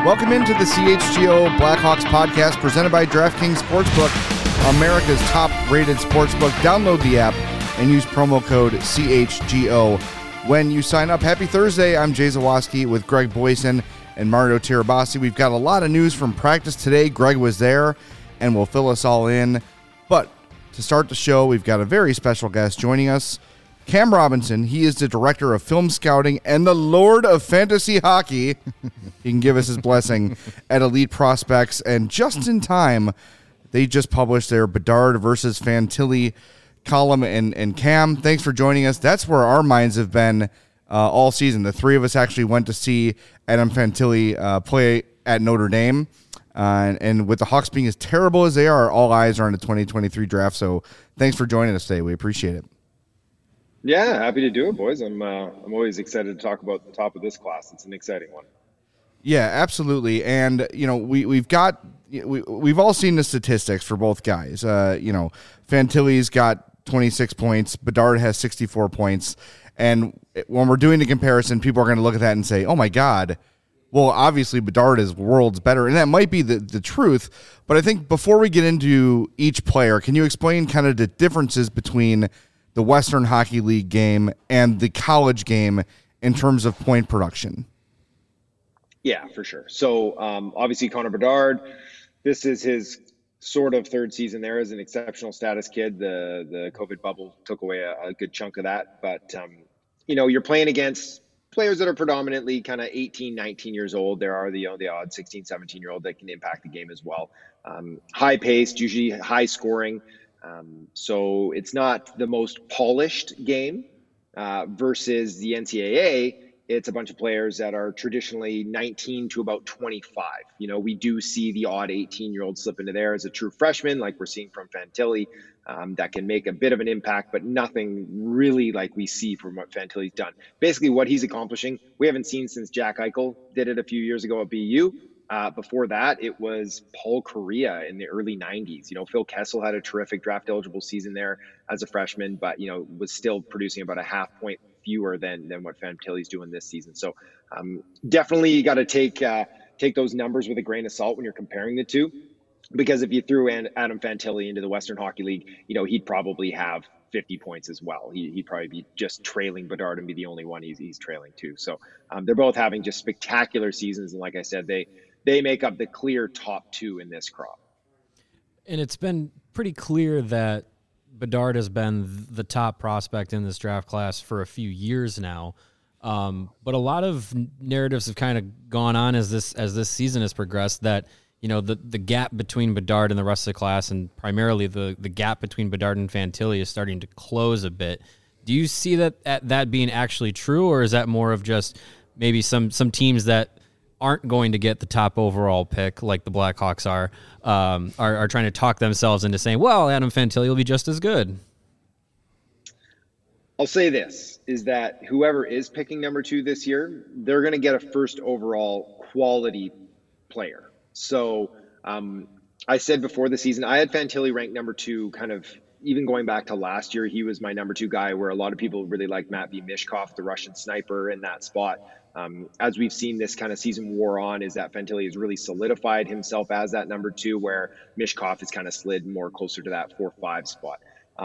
Welcome into the CHGO Blackhawks podcast presented by DraftKings Sportsbook, America's top-rated sportsbook. Download the app and use promo code CHGO when you sign up. Happy Thursday. I'm Jay Zawaski with Greg Boysen and Mario Tirabassi. We've got a lot of news from practice today. Greg was there and will fill us all in. But to start the show, we've got a very special guest joining us, Cam Robinson. He is the director of film scouting and the Lord of Fantasy Hockey. He can give us his blessing at Elite Prospects. And just in time, they just published their Bedard versus Fantilli column. And Cam, thanks for joining us. That's where our minds have been all season. The three of us actually went to see Adam Fantilli play at Notre Dame. And with the Hawks being as terrible as they are, all eyes are on the 2023 draft. So thanks for joining us today. We appreciate it. Yeah, happy to do it, boys. I'm always excited to talk about the top of this class. It's an exciting one. Yeah, absolutely. And, you know, we've all seen the statistics for both guys. Fantilli's got 26 points. Bedard has 64 points. And when we're doing the comparison, people are going to look at that and say, oh, my God, well, obviously Bedard is worlds better. And that might be the truth. But I think before we get into each player, can you explain kind of the differences between the Western Hockey League game and the college game in terms of point production? Yeah, for sure. So obviously Connor Bedard, this is his sort of third season there as an exceptional status kid. The COVID bubble took away a good chunk of that. But, you're playing against players that are predominantly kind of 18, 19 years old. There are the odd 16, 17-year-old that can impact the game as well. High paced, usually high scoring. So it's not the most polished game versus the NCAA. It's a bunch of players that are traditionally 19 to about 25. We do see the odd 18-year-old slip into there as a true freshman, like we're seeing from Fantilli, that can make a bit of an impact, but nothing really like we see from what Fantilli's done. Basically, what he's accomplishing, we haven't seen since Jack Eichel did it a few years ago at BU. Before that, it was Paul Kariya in the early 90s. Phil Kessel had a terrific draft-eligible season there as a freshman, but, was still producing about a half point fewer than what Fantilli's doing this season. So definitely you got to take those numbers with a grain of salt when you're comparing the two, because if you threw Adam Fantilli into the Western Hockey League, he'd probably have 50 points as well. He'd probably be just trailing Bedard and be the only one he's trailing too. So they're both having just spectacular seasons. And like I said, they make up the clear top two in this crop. And it's been pretty clear that Bedard has been the top prospect in this draft class for a few years now. But a lot of narratives have kind of gone on as this season has progressed that, the gap between Bedard and the rest of the class, and primarily the gap between Bedard and Fantilli, is starting to close a bit. Do you see that being actually true, or is that more of just maybe some teams that aren't going to get the top overall pick, like the Blackhawks are trying to talk themselves into saying, well, Adam Fantilli will be just as good? I'll say this, is that whoever is picking number 2 this year, they're going to get a first overall quality player. So I said before the season, I had Fantilli ranked number 2, kind of even going back to last year. He was my number 2 guy, where a lot of people really like Matvei Mishkov, the Russian sniper, in that spot. As we've seen this kind of season wore on, is that Fantilli has really solidified himself as that number 2, where Mishkov has kind of slid more closer to that 4-5 spot.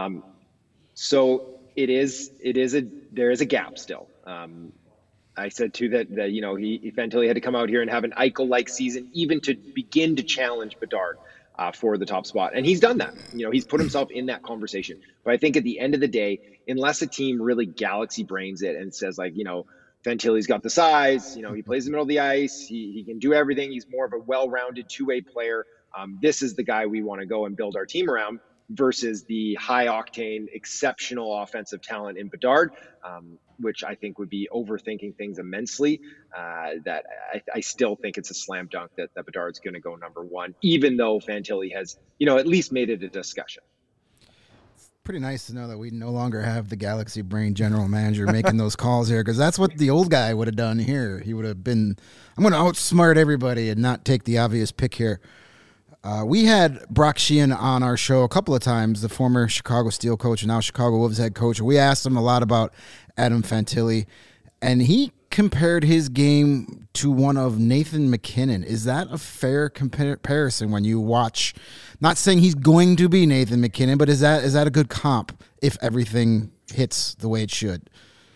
So there is a gap still. I said too that Fantilli had to come out here and have an Eichel-like season, even to begin to challenge Bedard for the top spot. And he's done that. He's put himself in that conversation. But I think at the end of the day, unless a team really galaxy brains it and says, like, Fantilli's got the size, he plays in the middle of the ice, he can do everything, he's more of a well-rounded two-way player, this is the guy we want to go and build our team around, versus the high-octane, exceptional offensive talent in Bedard, which I think would be overthinking things immensely. That I still think it's a slam dunk that Bedard's going to go number 1, even though Fantilli has, at least made it a discussion. Pretty nice to know that we no longer have the Galaxy Brain general manager making those calls here, because that's what the old guy would have done here. He would have been, I'm going to outsmart everybody and not take the obvious pick here. We had Brock Sheehan on our show a couple of times, the former Chicago Steel coach and now Chicago Wolves head coach. We asked him a lot about Adam Fantilli, and he compared his game to one of Nathan MacKinnon. Is that a fair comparison when you watch? Not saying he's going to be Nathan MacKinnon, but is that a good comp if everything hits the way it should?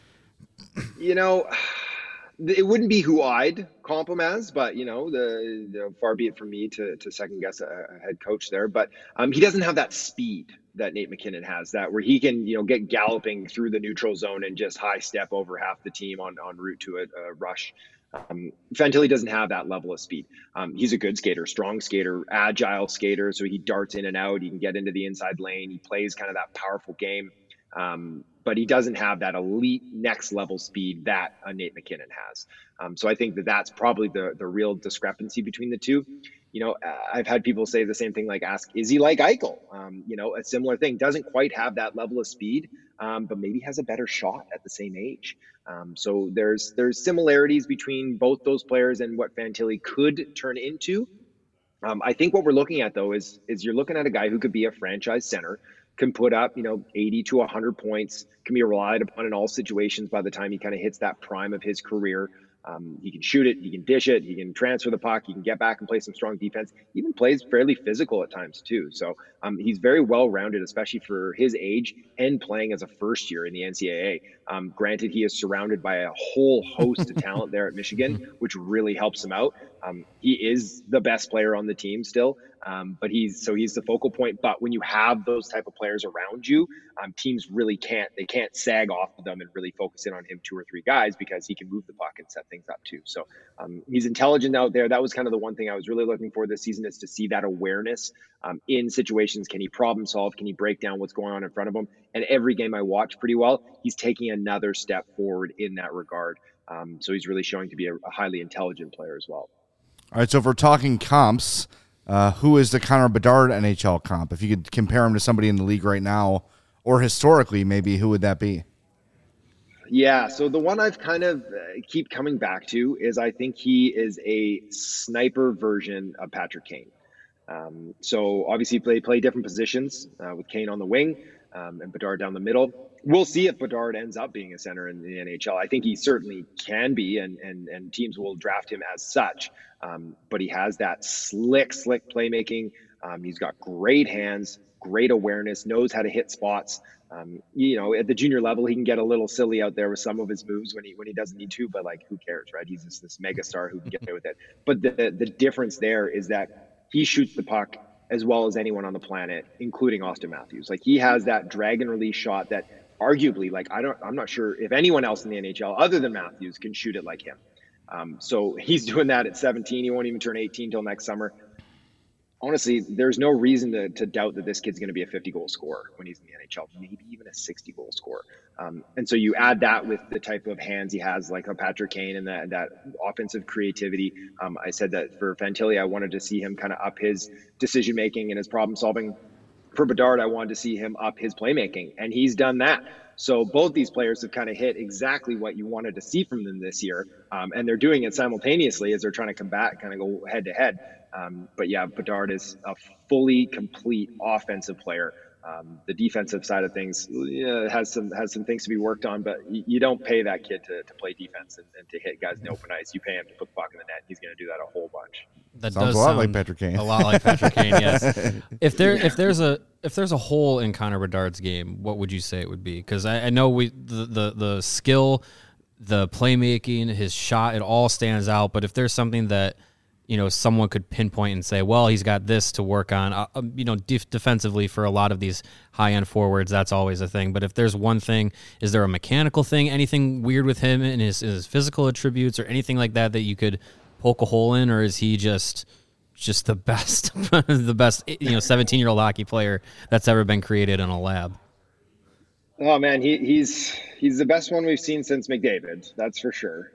You know, it wouldn't be who I'd comp him as, but you know, the far be it from me to second guess a head coach there. But he doesn't have that speed that Nate MacKinnon has, that where he can, you know, get galloping through the neutral zone and just high step over half the team on route to a rush. Fantilli doesn't have that level of speed. He's a good skater, strong skater, agile skater. So he darts in and out. He can get into the inside lane. He plays kind of that powerful game. But he doesn't have that elite next level speed that Nate MacKinnon has. So I think that's probably the real discrepancy between the two. You know, I've had people say the same thing, like ask, is he like Eichel? You know, a similar thing, doesn't quite have that level of speed, but maybe has a better shot at the same age. So there's similarities between both those players and what Fantilli could turn into. I think what we're looking at though is you're looking at a guy who could be a franchise center, can put up, you know, 80 to 100 points, can be relied upon in all situations by the time he kind of hits that prime of his career. He can shoot it, he can dish it, he can transfer the puck, he can get back and play some strong defense, he even plays fairly physical at times too. So he's very well-rounded, especially for his age and playing as a first year in the NCAA. Granted, he is surrounded by a whole host of talent there at Michigan, which really helps him out. He is the best player on the team still, but he's the focal point. But when you have those type of players around you, teams really can't sag off of them and really focus in on him 2 or 3 guys, because he can move the puck and set things up too. So he's intelligent out there. That was kind of the one thing I was really looking for this season, is to see that awareness in situations. Can he problem solve? Can he break down what's going on in front of him? And every game I watched pretty well, he's taking another step forward in that regard. So he's really showing to be a highly intelligent player as well. All right, so if we're talking comps, who is the Connor Bedard NHL comp? If you could compare him to somebody in the league right now, or historically, maybe, who would that be? Yeah, so the one I've kind of keep coming back to is I think he is a sniper version of Patrick Kane. So obviously they play different positions with Kane on the wing and Bedard down the middle. We'll see if Bedard ends up being a center in the NHL. I think he certainly can be, and teams will draft him as such. But he has that slick playmaking. He's got great hands, great awareness, knows how to hit spots. You know, at the junior level, he can get a little silly out there with some of his moves when he doesn't need to, but like, who cares, right? He's just this mega star who can get away with it. But the difference there is that he shoots the puck as well as anyone on the planet, including Austin Matthews. Like, he has that drag and release shot that arguably, like, I'm not sure if anyone else in the NHL other than Matthews can shoot it like him. So he's doing that at 17. He won't even turn 18 till next summer. Honestly, there's no reason to doubt that this kid's going to be a 50-goal scorer when he's in the NHL, maybe even a 60-goal scorer. And so you add that with the type of hands he has, like a Patrick Kane, and that offensive creativity. I said that for Fantilli, I wanted to see him kind of up his decision-making and his problem-solving. For Bedard, I wanted to see him up his playmaking, and he's done that. So both these players have kind of hit exactly what you wanted to see from them this year, and they're doing it simultaneously as they're trying to combat, kind of go head-to-head. But yeah, Bedard is a fully complete offensive player. The defensive side of things has some things to be worked on, but you don't pay that kid to play defense and to hit guys in the open ice. You pay him to put the puck in the net. He's going to do that a whole bunch. That Sounds does a lot sound like Patrick Kane. A lot like Patrick Kane, yes. If there's a hole in Connor Bedard's game, what would you say it would be? Because I know the skill, the playmaking, his shot, it all stands out. But if there's something that, you know, someone could pinpoint and say, well, he's got this to work on, you know, defensively for a lot of these high-end forwards, that's always a thing. But if there's one thing, is there a mechanical thing, anything weird with him and his physical attributes or anything like that you could poke a hole in, or is he just the best, the best, you know, 17-year-old hockey player that's ever been created in a lab? Oh man, he's the best one we've seen since McDavid, that's for sure.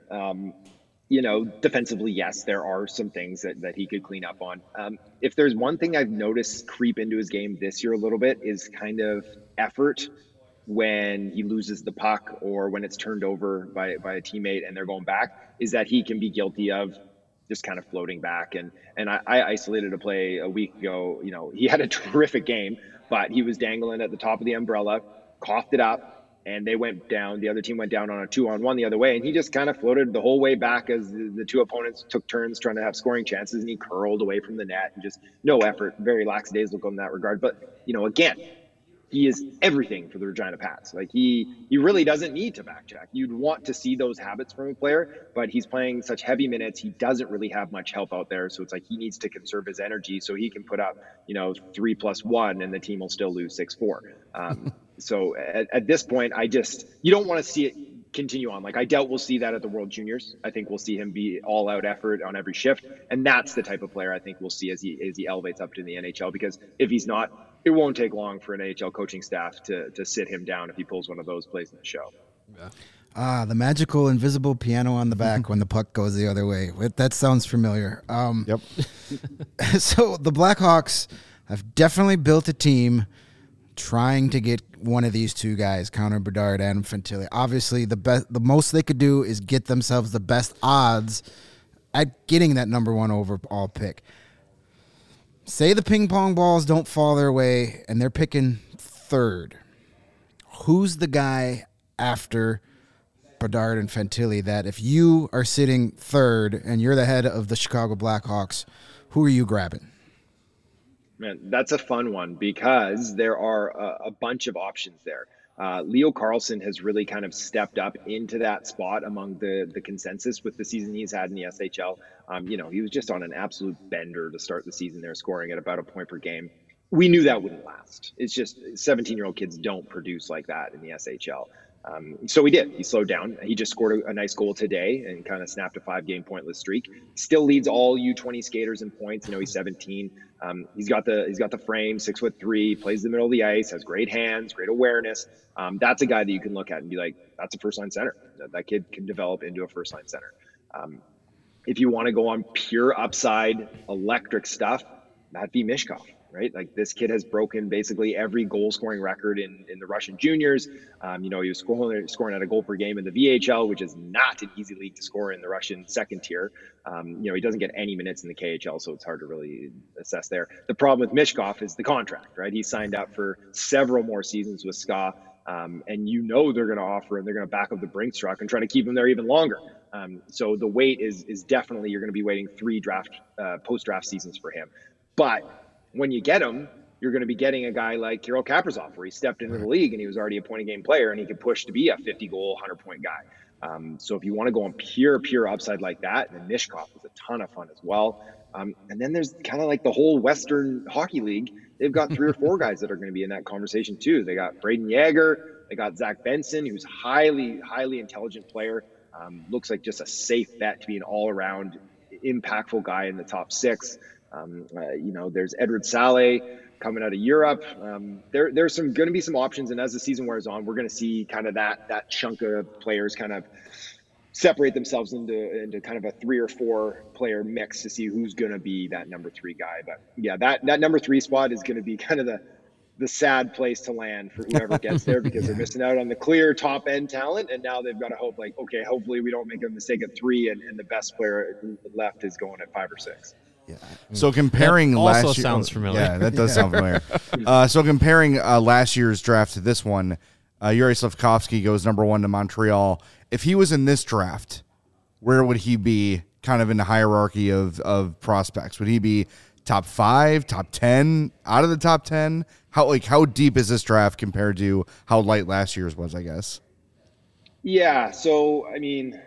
You know, defensively, yes, there are some things that he could clean up on. If there's one thing I've noticed creep into his game this year a little bit, is kind of effort when he loses the puck or when it's turned over by a teammate and they're going back, is that he can be guilty of just kind of floating back. And I isolated a play a week ago. You know, he had a terrific game, but he was dangling at the top of the umbrella, coughed it up, and they went down. The other team went down on a 2-on-1 the other way, and he just kind of floated the whole way back as the two opponents took turns trying to have scoring chances, and he curled away from the net and just no effort, very lackadaisical in that regard. But, again, he is everything for the Regina Pats. Like he really doesn't need to back check. You'd want to see those habits from a player, but he's playing such heavy minutes. He doesn't really have much help out there. So it's like he needs to conserve his energy so he can put up, 3+1 and the team will still lose 6-4. So at this point, you don't want to see it continue on. Like I doubt we'll see that at the World Juniors. I think we'll see him be all out effort on every shift. And that's the type of player I think we'll see as he elevates up to the NHL, because if he's not, it won't take long for an NHL coaching staff to sit him down if he pulls one of those plays in the show. Yeah. The magical invisible piano on the back when the puck goes the other way. That sounds familiar. Yep. So the Blackhawks have definitely built a team trying to get one of these two guys, Connor Bedard, Adam Fantilli. Obviously, the most they could do is get themselves the best odds at getting that number one overall pick. Say the ping pong balls don't fall their way and they're picking third. Who's the guy after Bedard and Fantilli that if you are sitting third and you're the head of the Chicago Blackhawks, who are you grabbing? Man, that's a fun one because there are a bunch of options there. Leo Carlsson has really kind of stepped up into that spot among the consensus with the season he's had in the SHL. He was just on an absolute bender to start the season there, scoring at about a point per game. We knew that wouldn't last. It's just 17-year-old kids don't produce like that in the SHL. So he did. He slowed down. He just scored a nice goal today and kind of snapped a 5-game pointless streak. Still leads all U20 skaters in points. He's 17. He's got the frame, 6'3", plays the middle of the ice, has great hands, great awareness. That's a guy that you can look at and be like, that's a first line center. That kid can develop into a first line center. If you want to go on pure upside electric stuff, that'd be Mishkov. Right? Like this kid has broken basically every goal scoring record in the Russian juniors. He was scoring at a goal per game in the VHL, which is not an easy league to score in the Russian second tier. He doesn't get any minutes in the KHL, so it's hard to really assess there. The problem with Mishkov is the contract, right? He signed up for several more seasons with SKA. And they're going to offer him, they're going to back up the Brinks truck and try to keep him there even longer. So the wait is definitely, you're going to be waiting 3 post-draft seasons for him. But when you get him, you're going to be getting a guy like Kirill Kaprizov, where he stepped into the league and he was already a point-a-game player and he could push to be a 50-goal, 100-point guy. So if you want to go on pure upside like that, then Mishkov is a ton of fun as well. And then there's kind of like the whole Western Hockey League. They've got 3 or 4 guys that are going to be in that conversation too. They got Braden Yager, they got Zach Benson, who's highly intelligent player. Looks like just a safe bet to be an all-around impactful guy in the top 6. There's Edward Saleh coming out of Europe. There's going to be some options, and as the season wears on, we're going to see kind of that chunk of players kind of separate themselves into kind of a 3 or 4 player mix to see who's going to be that number 3 guy. But yeah, that number 3 spot is going to be kind of the sad place to land for whoever gets there because they're missing out on the clear top end talent, and now they've got to hope okay, hopefully we don't make a mistake at 3 and the best player left is going at 5 or 6. Yeah. So comparing that last also year, sounds familiar. Yeah, that does sound familiar. So comparing last year's draft to this one, Yuri Slafkovsky goes number 1 to Montreal. If he was in this draft, where would he be kind of in the hierarchy of prospects? Would he be top 5, top 10, out of the top 10? How deep is this draft compared to how light last year's was, I guess? Yeah, so I mean,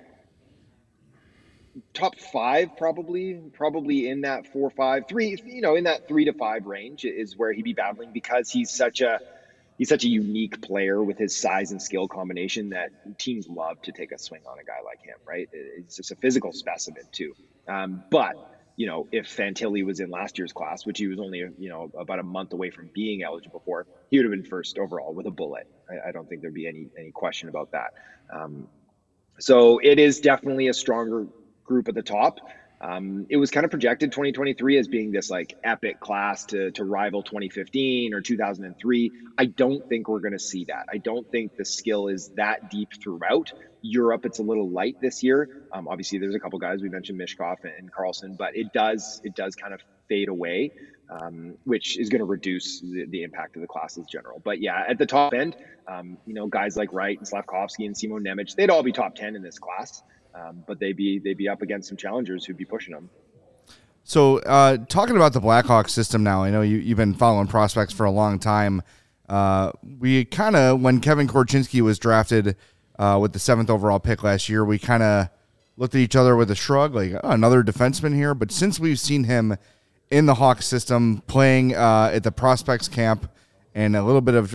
top 5 probably in that 4, 5, 3, in that 3 to 5 range is where he'd be battling, because he's such a unique player with his size and skill combination that teams love to take a swing on a guy like him, right? It's just a physical specimen too. But if Fantilli was in last year's class, which he was only about a month away from being eligible for, he would have been first overall with a bullet. I don't think there'd be any question about that. So it is definitely a stronger group at the top. It was kind of projected 2023 as being this like epic class to rival 2015 or 2003. I don't think we're going to see that. I don't think the skill is that deep throughout. Europe, it's a little light this year. Obviously, there's a couple guys we mentioned, Mishkov and Carlson, but it does kind of fade away, which is going to reduce the impact of the class as general. But yeah, at the top end, guys like Wright and Slavkovsky and Simon Nemec, they'd all be top 10 in this class, but they'd be up against some challengers who'd be pushing them. So talking about the Blackhawks system now, I know you've been following prospects for a long time. We kind of, when Kevin Korchinski was drafted with the 7th overall pick last year, we kind of looked at each other with a shrug, like, oh, another defenseman here. But since we've seen him in the Hawks system playing at the prospects camp and a little bit of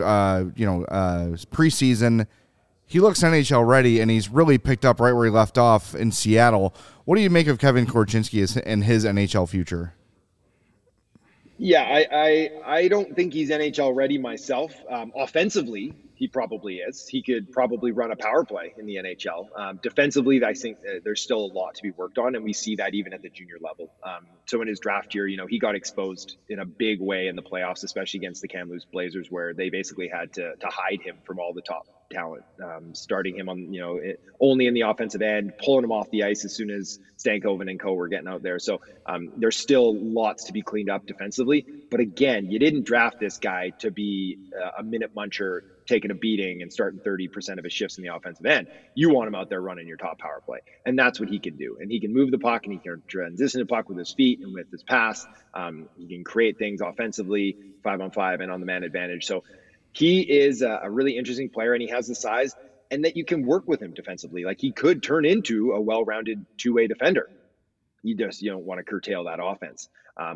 preseason, he looks NHL ready, and he's really picked up right where he left off in Seattle. What do you make of Kevin Korchinski and his NHL future? Yeah, I don't think he's NHL ready myself. Offensively, he probably is. He could probably run a power play in the NHL. Defensively, I think there's still a lot to be worked on, and we see that even at the junior level. So in his draft year, he got exposed in a big way in the playoffs, especially against the Kamloops Blazers, where they basically had to hide him from all the top talent, starting him on, only in the offensive end, pulling him off the ice as soon as Stankoven and co were getting out there. So there's still lots to be cleaned up defensively. But again, you didn't draft this guy to be a minute muncher, taking a beating and starting 30% of his shifts in the offensive end. You want him out there running your top power play. And that's what he can do. And he can move the puck, and he can transition the puck with his feet and with his pass. He can create things offensively, 5-on-5 and on the man advantage. So he is a really interesting player, and he has the size, and that you can work with him defensively. Like, he could turn into a well-rounded two-way defender. You don't want to curtail that offense.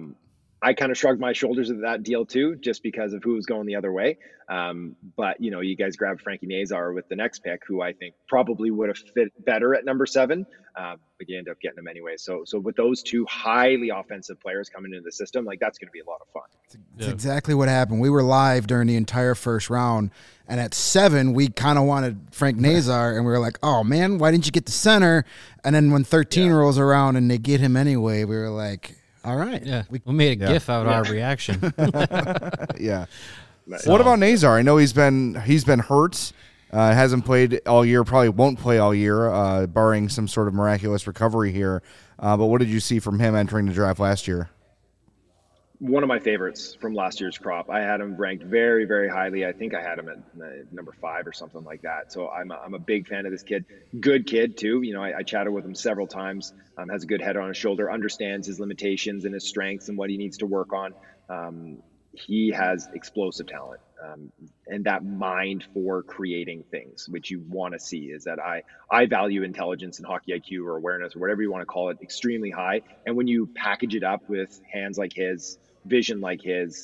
I kind of shrugged my shoulders at that deal too, just because of who was going the other way. But you guys grabbed Frankie Nazar with the next pick, who I think probably would have fit better at number 7. But you end up getting him anyway. So with those two highly offensive players coming into the system, like, that's going to be a lot of fun. That's exactly what happened. We were live during the entire first round, and at 7, we kind of wanted Frank Nazar, and we were like, oh man, why didn't you get the center? And then when 13 rolls around and they get him anyway, we were like, all right. Yeah, we made a GIF out of our reaction. Yeah. So, what about Nazar? I know he's been hurt, hasn't played all year, probably won't play all year, barring some sort of miraculous recovery here. But what did you see from him entering the draft last year? One of my favorites from last year's crop. I had him ranked very, very highly. I think I had him at number 5 or something like that. So I'm a big fan of this kid. Good kid too. I chatted with him several times. Has a good head on his shoulder. Understands his limitations and his strengths and what he needs to work on. He has explosive talent, and that mind for creating things, which you want to see. Is that I value intelligence and hockey IQ or awareness or whatever you want to call it extremely high. And when you package it up with hands like his, vision like his,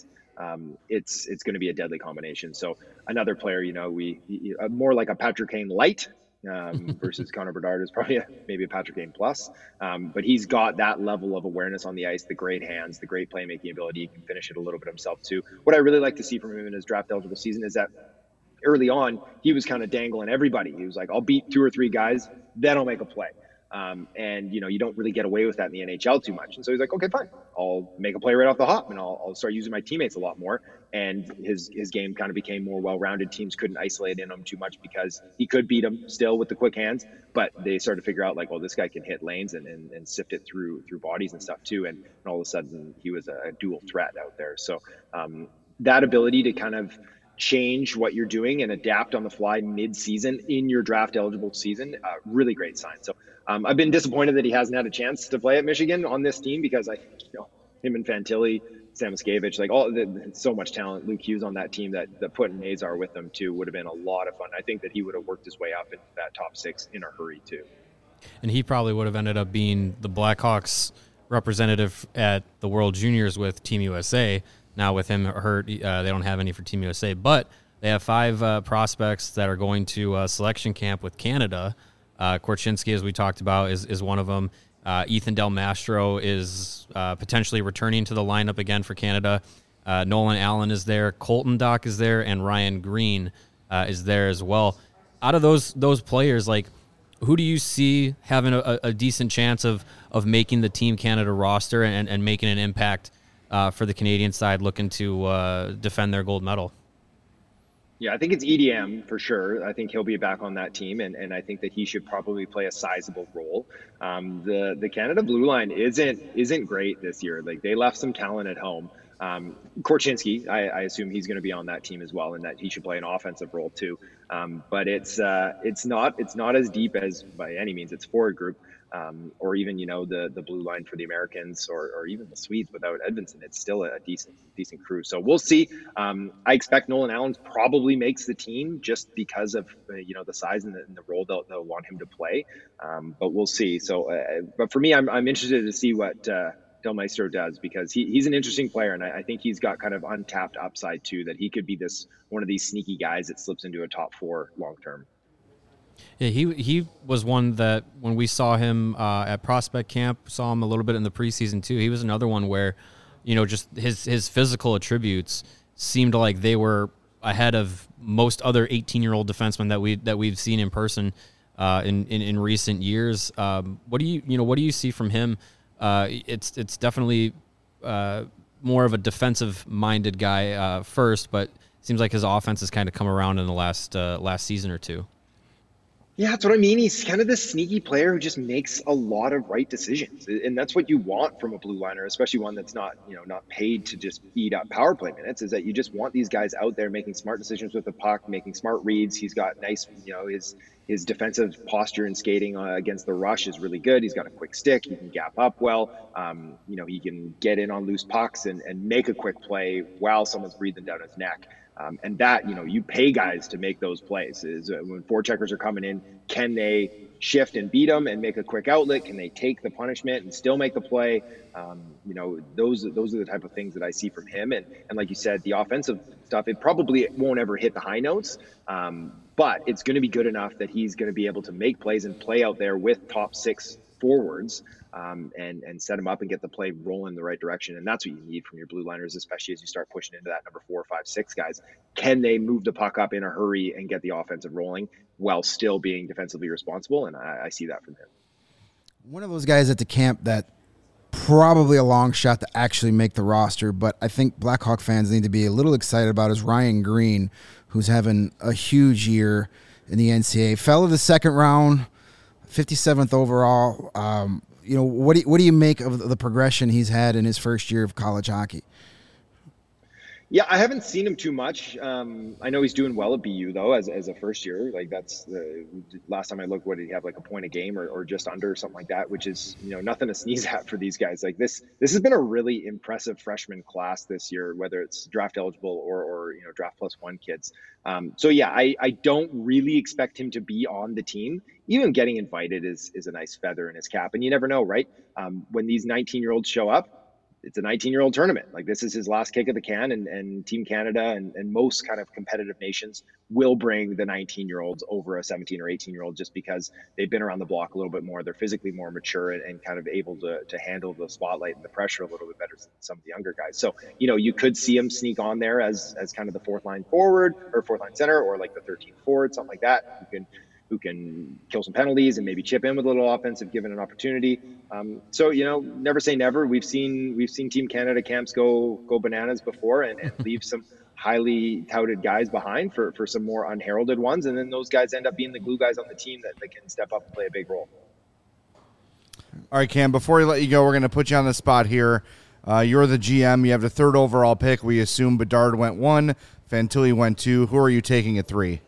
it's going to be a deadly combination. So another player, more like a Patrick Kane light versus Connor Bedard is probably maybe a Patrick Kane plus. But he's got that level of awareness on the ice, the great hands, the great playmaking ability. He can finish it a little bit himself too. What I really like to see from him in his draft eligible season is that early on, he was kind of dangling everybody. He was like, I'll beat 2 or 3 guys, then I'll make a play. And you don't really get away with that in the NHL too much. And so he's like, okay, fine, I'll make a play right off the hop, and I'll start using my teammates a lot more. And his game kind of became more well-rounded. Teams couldn't isolate in him too much because he could beat them still with the quick hands, but they started to figure out like, well, this guy can hit lanes and sift it through bodies and stuff too. And all of a sudden he was a dual threat out there. So that ability to kind of change what you're doing and adapt on the fly mid-season in your draft eligible season, really great sign. So I've been disappointed that he hasn't had a chance to play at Michigan on this team, because him and Fantilli, Sam Miskevich, so much talent. Luke Hughes on that team that putting Nazar with them too would have been a lot of fun. I think that he would have worked his way up into that top 6 in a hurry too. And he probably would have ended up being the Blackhawks representative at the World Juniors with Team USA. Now with him hurt, they don't have any for Team USA, but they have 5 prospects that are going to selection camp with Canada. Korchinski, as we talked about, is one of them. Ethan Del Mastro is potentially returning to the lineup again for Canada. Nolan Allen is there. Colton Dock is there. And Ryan Green is there as well. Out of those players, like, who do you see having a decent chance of making the Team Canada roster and making an impact for the Canadian side looking to defend their gold medal? Yeah, I think it's EDM for sure. I think he'll be back on that team, and I think that he should probably play a sizable role. The Canada blue line isn't great this year. Like, they left some talent at home. Korchinski, I assume he's going to be on that team as well, and that he should play an offensive role too. But it's not as deep as by any means its forward group. Or even, the blue line for the Americans, or even the Swedes without Edvinsson. It's still a decent crew. So we'll see. I expect Nolan Allen probably makes the team just because of the size and the role they'll want him to play. But we'll see. So, but for me, I'm interested to see what Del Maestro does, because he's an interesting player, and I think he's got kind of untapped upside too. That he could be one of these sneaky guys that slips into a top 4 long term. Yeah, he was one that when we saw him at prospect camp, saw him a little bit in the preseason too. He was another one where, just his physical attributes seemed like they were ahead of most other 18-year-old defensemen that we've seen in person in recent years. What do you see from him? It's definitely more of a defensive-minded guy first, but it seems like his offense has kind of come around in the last season or two. Yeah, that's what I mean. He's kind of this sneaky player who just makes a lot of right decisions. And that's what you want from a blue liner, especially one that's not paid to just eat up power play minutes, is that you just want these guys out there making smart decisions with the puck, making smart reads. He's got nice, his defensive posture and skating against the rush is really good. He's got a quick stick. He can gap up well. He can get in on loose pucks and make a quick play while someone's breathing down his neck. And that, you pay guys to make those plays. Is when forecheckers are coming in, can they shift and beat them and make a quick outlet? Can they take the punishment and still make the play? Those are the type of things that I see from him. And like you said, the offensive stuff, it probably won't ever hit the high notes, but it's going to be good enough that he's going to be able to make plays and play out there with top 6 forwards. And set them up and get the play rolling in the right direction. And that's what you need from your blue liners, especially as you start pushing into that number 4, 5, 6 guys. Can they move the puck up in a hurry and get the offensive rolling while still being defensively responsible? And I see that from him. One of those guys at the camp that probably a long shot to actually make the roster, but I think Blackhawk fans need to be a little excited about is Ryan Green, who's having a huge year in the NCAA. Fell to the second round, 57th overall. What do you make of the progression he's had in his first year of college hockey? Yeah, I haven't seen him too much. I know he's doing well at BU though, as a first year. Like, that's the last time I looked, what did he have, like a point a game or just under, or something like that, which is, nothing to sneeze at for these guys. Like, this has been a really impressive freshman class this year, whether it's draft eligible or draft plus 1 kids. So yeah, I don't really expect him to be on the team. Even getting invited is a nice feather in his cap, and you never know, right? When these 19-year-olds show up, it's a 19-year-old tournament. Like, this is his last kick of the can, and Team Canada and most kind of competitive nations will bring the 19-year-olds over a 17 or 18-year-old just because they've been around the block a little bit more. They're physically more mature and kind of able to handle the spotlight and the pressure a little bit better than some of the younger guys. So, you could see him sneak on there as kind of the 4th line forward or 4th line center, or like the 13th forward, something like that. Who can kill some penalties and maybe chip in with a little offense if given an opportunity. So, never say never. We've seen Team Canada camps go bananas before and leave some highly touted guys behind for some more unheralded ones. And then those guys end up being the glue guys on the team that can step up and play a big role. All right, Cam, before we let you go, we're going to put you on the spot here. You're the GM. You have the 3rd overall pick. We assume Bedard went 1, Fantilli went 2. Who are you taking at 3?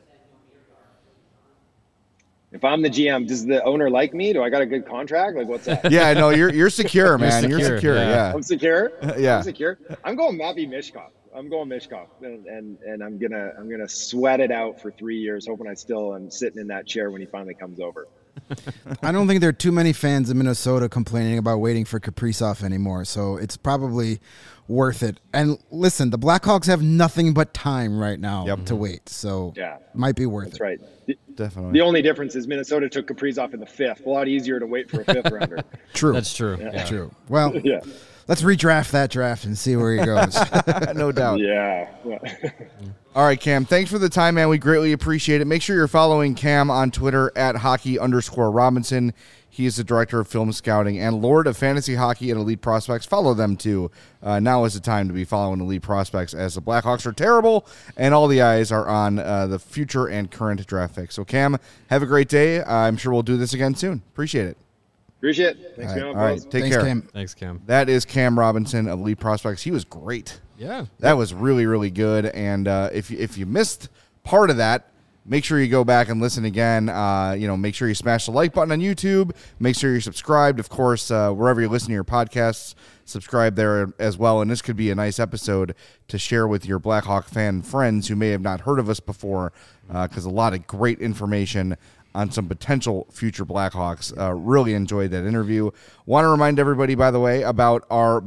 If I'm the GM, does the owner like me? Do I got a good contract? Like, what's that? Yeah, no, you're secure, man. You're secure. Yeah. I'm secure. Yeah. I'm secure. I'm going Matvei Michkov. And I'm gonna sweat it out for 3 years, hoping I still am sitting in that chair when he finally comes over. I don't think there are too many fans in Minnesota complaining about waiting for Kaprizov anymore, so it's probably worth it. And listen, the Blackhawks have nothing but time right now to wait, so might be worth it. That's right. Definitely. The only difference is Minnesota took Kaprizov in the 5th. A lot easier to wait for a 5th rounder. True. That's true. Yeah. True. Well, let's redraft that draft and see where he goes. No doubt. Yeah. All right, Cam, thanks for the time, man. We greatly appreciate it. Make sure you're following Cam on Twitter at @hockey_Robinson. He is the director of film scouting and Lord of Fantasy Hockey and Elite Prospects. Follow them, too. Now is the time to be following Elite Prospects, as the Blackhawks are terrible, and all the eyes are on the future and current draft picks. So, Cam, have a great day. I'm sure we'll do this again soon. Appreciate it. Appreciate it. Thanks, all right. Take Thanks, care. Cam. Thanks, Cam. That is Cam Robinson of Elite Prospects. He was great. Yeah. That was really, really good. And if you missed part of that, make sure you go back and listen again. Make sure you smash the like button on YouTube. Make sure you're subscribed. Of course, wherever you listen to your podcasts, subscribe there as well. And this could be a nice episode to share with your Blackhawk fan friends who may have not heard of us before, because a lot of great information on some potential future Blackhawks. Really enjoyed that interview. Want to remind everybody, by the way, about our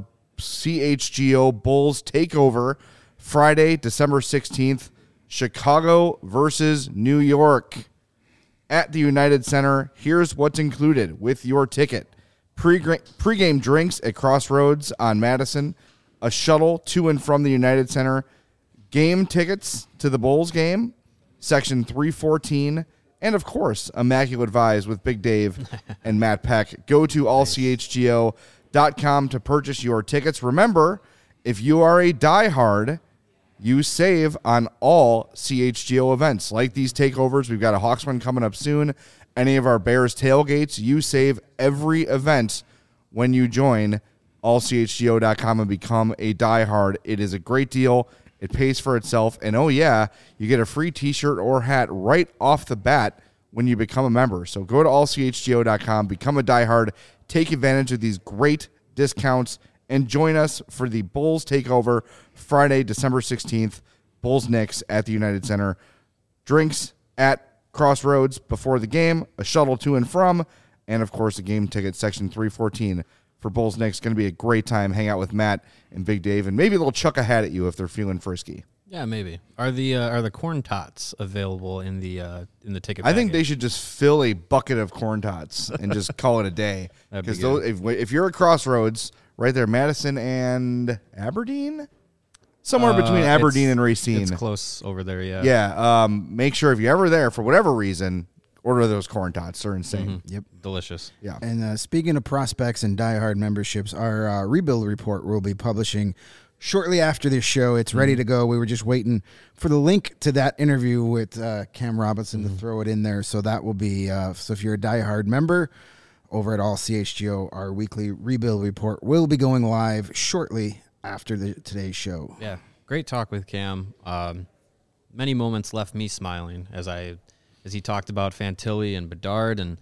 CHGO Bulls takeover Friday, December 16th, Chicago versus New York at the United Center. Here's what's included with your ticket. Pre-game drinks at Crossroads on Madison, a shuttle to and from the United Center, game tickets to the Bulls game, Section 314, and, of course, Immaculate Vibes with Big Dave and Matt Peck. Go to allchgo.com to purchase your tickets. Remember, if you are a diehard, you save on all CHGO events. Like these takeovers, we've got a Hawks one coming up soon. Any of our Bears tailgates, you save every event when you join allchgo.com and become a diehard. It is a great deal. It pays for itself. And, oh, yeah, you get a free T-shirt or hat right off the bat when you become a member. So go to allchgo.com, become a diehard, take advantage of these great discounts, and join us for the Bulls takeover Friday, December 16th, Bulls-Knicks at the United Center. Drinks at Crossroads before the game, a shuttle to and from, and, of course, a game ticket, Section 314 for Bulls-Knicks. Going to be a great time. Hang out with Matt and Big Dave, and maybe they'll chuck a hat at you if they're feeling frisky. Yeah, maybe. Are the corn tots available in the ticket? I think package? they should just fill a bucket of corn tots and just call it a day. That'd be Because if you're at Crossroads, right there, Madison and Aberdeen, somewhere between Aberdeen and Racine, it's close over there. Yeah. Yeah. Make sure if you're ever there for whatever reason, order those corn tots. They're insane. Mm-hmm. Yep. Delicious. Yeah. And speaking of prospects and diehard memberships, our rebuild report we'll be publishing shortly after this show. It's ready to go. We were just waiting for the link to that interview with Cam Robinson to throw it in there. So that will be, so if you're a diehard member over at All CHGO, our weekly rebuild report will be going live shortly after today's show. Yeah. Great talk with Cam. Many moments left me smiling as he talked about Fantilli and Bedard. And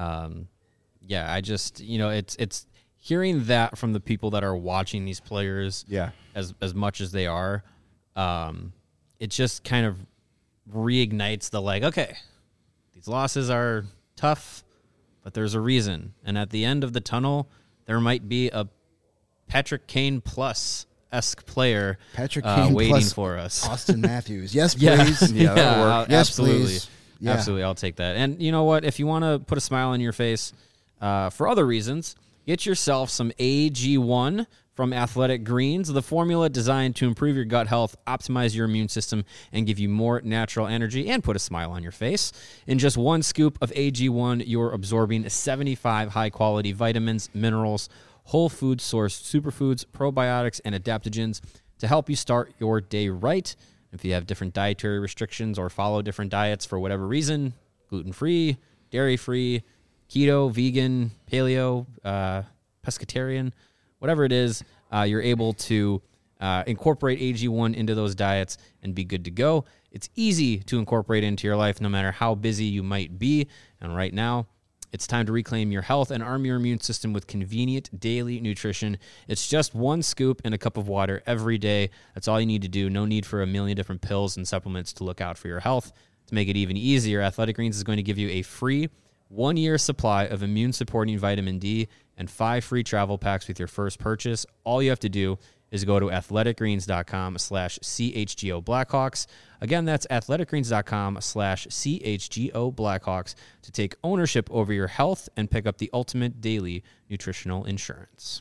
I just, it's hearing that from the people that are watching these players as much as they are, it just kind of reignites the okay, these losses are tough, but there's a reason. And at the end of the tunnel, there might be a Patrick Kane plus-esque player Patrick Kane waiting plus for us. Austin Matthews. Yes, please. that'll work. Yes, absolutely. please. Yeah. Absolutely, I'll take that. And you know what? If you want to put a smile on your face for other reasons, get yourself some AG1 from Athletic Greens, the formula designed to improve your gut health, optimize your immune system, and give you more natural energy and put a smile on your face. In just one scoop of AG1, you're absorbing 75 high-quality vitamins, minerals, whole food sourced superfoods, probiotics, and adaptogens to help you start your day right. If you have different dietary restrictions or follow different diets for whatever reason, gluten-free, dairy-free, keto, vegan, paleo, pescatarian, whatever it is, you're able to incorporate AG1 into those diets and be good to go. It's easy to incorporate into your life no matter how busy you might be. And right now, it's time to reclaim your health and arm your immune system with convenient daily nutrition. It's just one scoop in a cup of water every day. That's all you need to do. No need for a million different pills and supplements to look out for your health. To make it even easier, Athletic Greens is going to give you a free 1-year supply of immune-supporting vitamin D and 5 free travel packs with your first purchase. All you have to do is go to athleticgreens.com/CHGO Blackhawks. Again, that's athleticgreens.com/CHGO Blackhawks to take ownership over your health and pick up the ultimate daily nutritional insurance.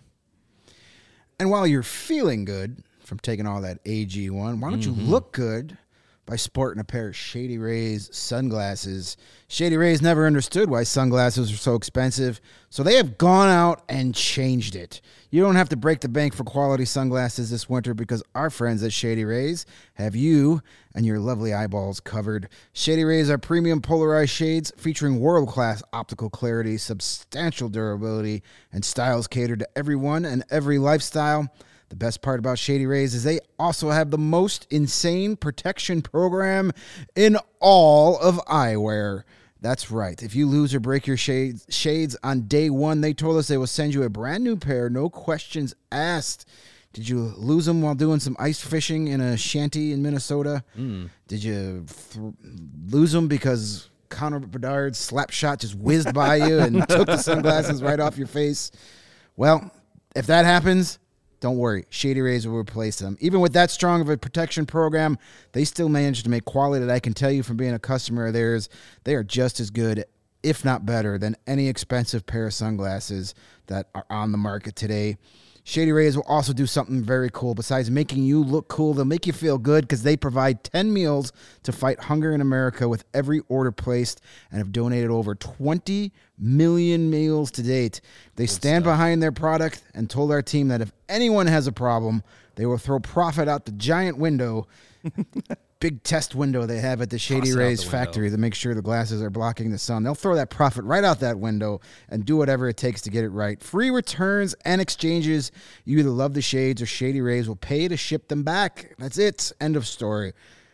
And while you're feeling good from taking all that AG1, why don't you look good by sporting a pair of Shady Rays sunglasses. Shady Rays never understood why sunglasses are so expensive, so they have gone out and changed it. You don't have to break the bank for quality sunglasses this winter because our friends at Shady Rays have you and your lovely eyeballs covered. Shady Rays are premium polarized shades featuring world-class optical clarity, substantial durability, and styles catered to everyone and every lifestyle. The best part about Shady Rays is they also have the most insane protection program in all of eyewear. That's right. If you lose or break your shades on day one, they told us they will send you a brand new pair, no questions asked. Did you lose them while doing some ice fishing in a shanty in Minnesota? Did you lose them because Connor Bedard's slap shot just whizzed by you and took the sunglasses right off your face? Well, if that happens, don't worry. Shady Rays will replace them. Even with that strong of a protection program, they still manage to make quality that I can tell you from being a customer of theirs. They are just as good, if not better, than any expensive pair of sunglasses that are on the market today. Shady Rays will also do something very cool. Besides making you look cool, they'll make you feel good because they provide 10 meals to fight hunger in America with every order placed and have donated over 20 million meals to date. They stand behind their product and told our team that if anyone has a problem, they will throw profit out the giant window, big test window they have at the Shady Rays factory to make sure the glasses are blocking the sun. They'll throw that profit right out that window and do whatever it takes to get it right. Free returns and exchanges. You either love the shades or Shady Rays will pay to ship them back. That's it. End of story.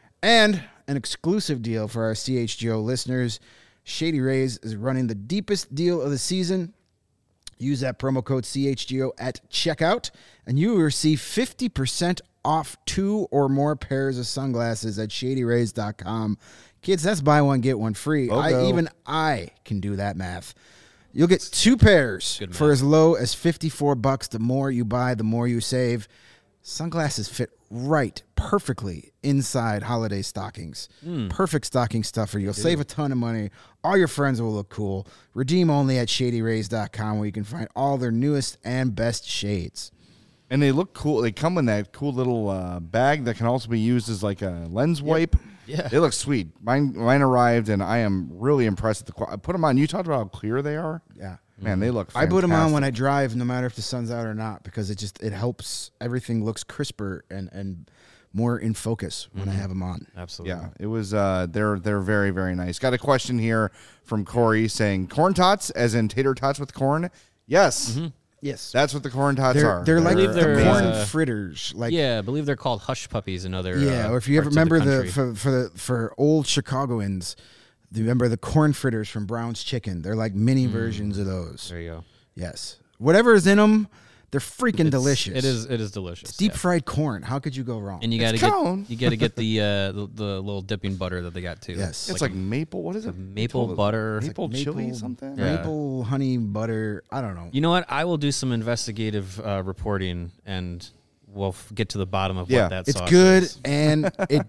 And an exclusive deal for our CHGO listeners. Shady Rays is running the deepest deal of the season. Use that promo code CHGO at checkout, and you will receive 50% off 2 or more pairs of sunglasses at ShadyRays.com. Kids, that's buy one, get one free. Even I can do that math. You'll get 2 pairs for as low as $54. The more you buy, the more you save. Sunglasses fit right perfectly inside holiday stockings. Perfect stocking stuffer. You'll save a ton of money. All your friends will look cool. Redeem only at ShadyRays.com, where you can find all their newest and best shades. And they look cool. They come in that cool little bag that can also be used as like a lens wipe. Yeah. They look sweet. Mine arrived, and I am really impressed with I put them on. You talked about how clear they are. Yeah. Man, they look fantastic. I put them on when I drive, no matter if the sun's out or not, because it helps. Everything looks crisper and more in focus when I have them on. Absolutely. Yeah, it was. They're very, very nice. Got a question here from Corey saying, corn tots, as in tater tots with corn? Yes. Yes. That's what the corn tots are. They're like they're corn fritters. Like, yeah, I believe they're called hush puppies in other or if you ever parts of remember country. for old Chicagoans, do you remember the corn fritters from Brown's Chicken? They're like mini versions of those. There you go. Yes. Whatever is in them, they're freaking delicious. It is delicious. It's deep fried corn. How could you go wrong? And you got to get the little dipping butter that they got too. Yes. It's like maple. What is it? Maple butter. Maple chili something? Yeah. Maple honey butter. I don't know. You know what? I will do some investigative reporting, and we'll get to the bottom of what that it's sauce good, is. and it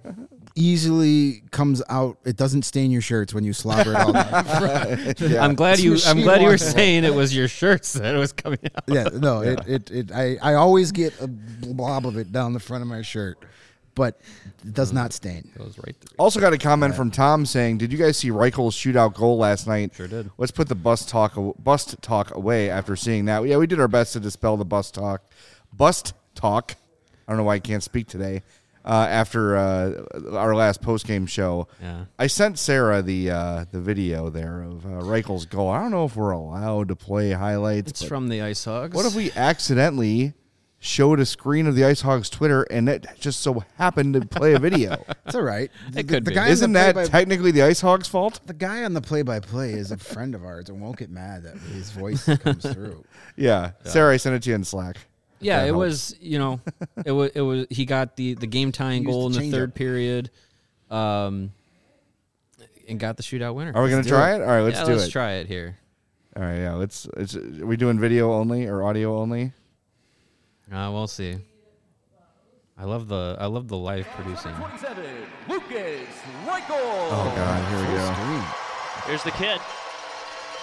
easily comes out. It doesn't stain your shirts when you slobber it all down. I'm glad you were saying it was your shirts that it was coming out. Yeah, no, I always get a blob of it down the front of my shirt, but it does not stain. It goes right through. Also got a comment from Tom saying, did you guys see Reichel's shootout goal last night? Sure did. Let's put the bust talk away after seeing that. Yeah, we did our best to dispel the bust talk. I don't know why I can't speak today. After our last post-game show, I sent Sarah the video there of Reichel's goal. I don't know if we're allowed to play highlights. It's from the Ice Hogs. What if we accidentally showed a screen of the Ice Hogs Twitter and it just so happened to play a video? It's all right. It could be. Isn't that technically the Ice Hogs' fault? The guy on the play-by-play is a friend of ours and won't get mad that his voice comes through. Yeah. Sarah, I sent it to you in Slack. Yeah, it was, it was he got the game tying goal in the third period, and got the shootout winner. Are we going to try it? All right, let's do it. Let's try it here. All right, yeah. Are we doing video only or audio only? We'll see. I love the live producing. 27, Lucas Reichel. Oh God, here we go. Here's the kid.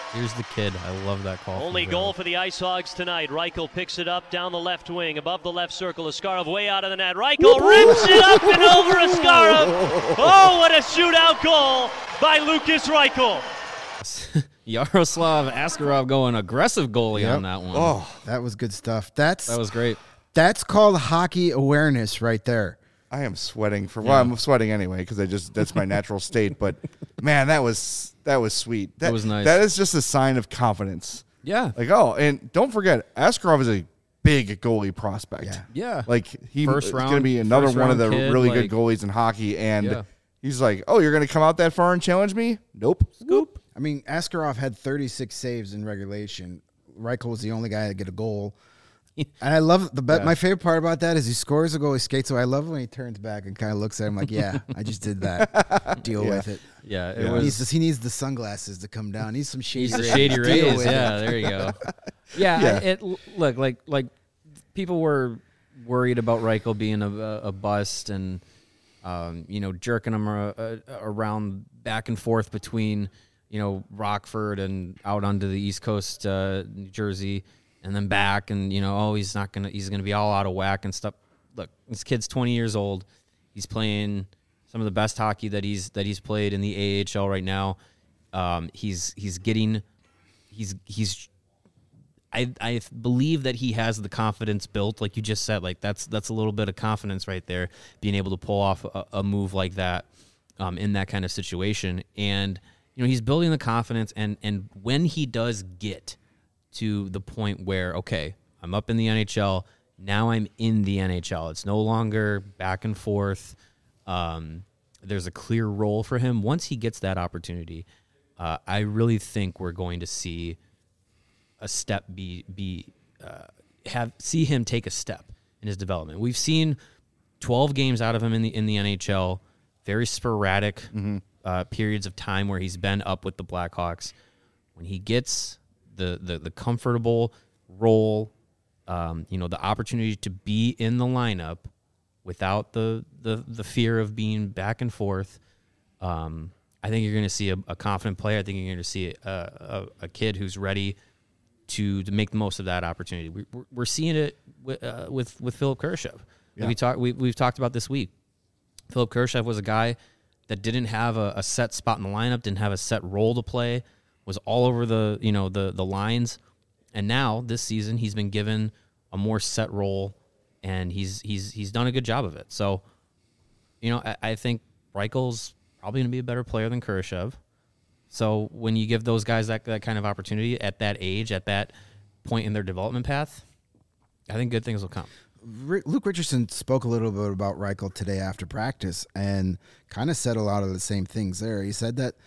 Here's the kid. I love that call. Only goal for the Ice Hogs tonight. Reichel picks it up down the left wing, above the left circle. Askarov way out of the net. Reichel rips it up and over Askarov. Oh, what a shootout goal by Lukas Reichel. Yaroslav Askarov going aggressive goalie on that one. Oh, That was good stuff. that was great. That's called hockey awareness right there. I am sweating I'm sweating anyway because that's my natural state. But man, that was sweet. That was nice. That is just a sign of confidence. Yeah. Like, and don't forget, Askarov is a big goalie prospect. Yeah. Like he's going to round- be another first one of the round kid, really like- good goalies in hockey. And Yeah. he's like, oh, you're going to come out that far and challenge me? Nope. Scoop. I mean, Askarov had 36 saves in regulation. Reichel was the only guy to get a goal. And I love my favorite part about that is he scores a goal, he skates away. I love when he turns back and kind of looks at him like, yeah, I just did that. Deal with it. Yeah, it He needs the sunglasses to come down. He needs some shady He's the rays. shady Deal rays. with Yeah, it. there you go. Yeah, look like people were worried about Reichel being a bust and jerking him around back and forth between Rockford and out onto the East Coast, New Jersey, and then back and he's gonna be all out of whack and stuff. Look, this kid's 20 years old. He's playing some of the best hockey that he's played in the AHL right now. I believe that he has the confidence built, like you just said. Like that's a little bit of confidence right there, being able to pull off a move like that in that kind of situation. And he's building the confidence. And when he does get to the point where, okay, I'm up in the NHL, now I'm in the NHL. It's no longer back and forth. There's a clear role for him. Once he gets that opportunity, I really think we're going to see a step see him take a step in his development. We've seen 12 games out of him in the NHL, very sporadic periods of time where he's been up with the Blackhawks. When he gets the comfortable role, the opportunity to be in the lineup without the fear of being back and forth, I think you're going to see a confident player. I think you're going to see a kid who's ready to make the most of that opportunity. We're seeing it with Philip Kurashev. Yeah. We've talked about this week. Philip Kurashev was a guy that didn't have a set spot in the lineup, didn't have a set role to play, was all over the lines, and now this season he's been given a more set role, and he's done a good job of it. So, I think Reichel's probably going to be a better player than Kurashev. So when you give those guys that kind of opportunity at that age, at that point in their development path, I think good things will come. Luke Richardson spoke a little bit about Reichel today after practice and kind of said a lot of the same things there. He said that,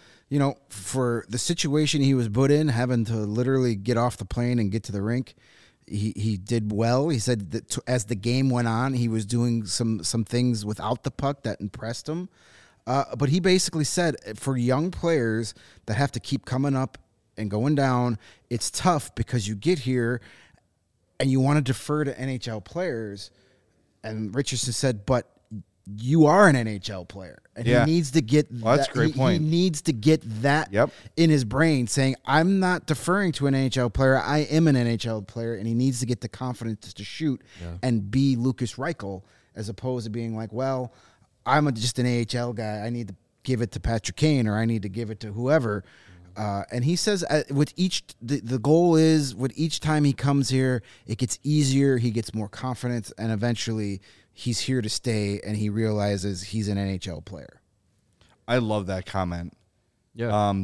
for the situation he was put in, having to literally get off the plane and get to the rink, he did well. He said that as the game went on, he was doing some things without the puck that impressed him. But he basically said for young players that have to keep coming up and going down, it's tough because you get here and you want to defer to NHL players. And Richardson said, but you are an NHL player. And he needs to get that's a great point. He needs to get that in his brain, saying, I'm not deferring to an NHL player. I am an NHL player. And he needs to get the confidence to shoot and be Lukas Reichel, as opposed to being like, well, I'm just an AHL guy. I need to give it to Patrick Kane, or I need to give it to whoever. And he says with the goal is with each time he comes here, it gets easier. He gets more confidence, and eventually he's here to stay, and he realizes he's an NHL player. I love that comment. Yeah.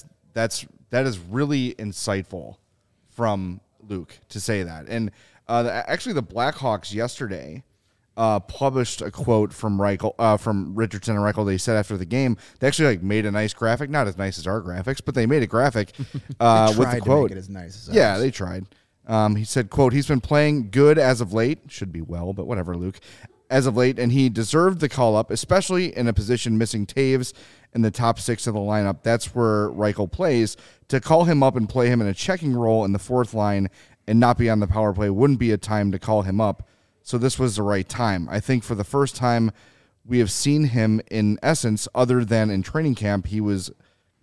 That is really insightful from Luke to say that. And actually the Blackhawks yesterday published a quote from Reichel, from Richardson and Reichel. They said after the game, they actually made a nice graphic, not as nice as our graphics, but they made a graphic with the quote. To make it as nice as yeah, ours. they tried. He said, quote, he's been playing good as of late. Should be well, but whatever, Luke. As of late, and he deserved the call-up, especially in a position missing Taves in the top six of the lineup. That's where Reichel plays. To call him up and play him in a checking role in the fourth line and not be on the power play wouldn't be a time to call him up. So this was the right time. I think for the first time we have seen him in essence, other than in training camp, he was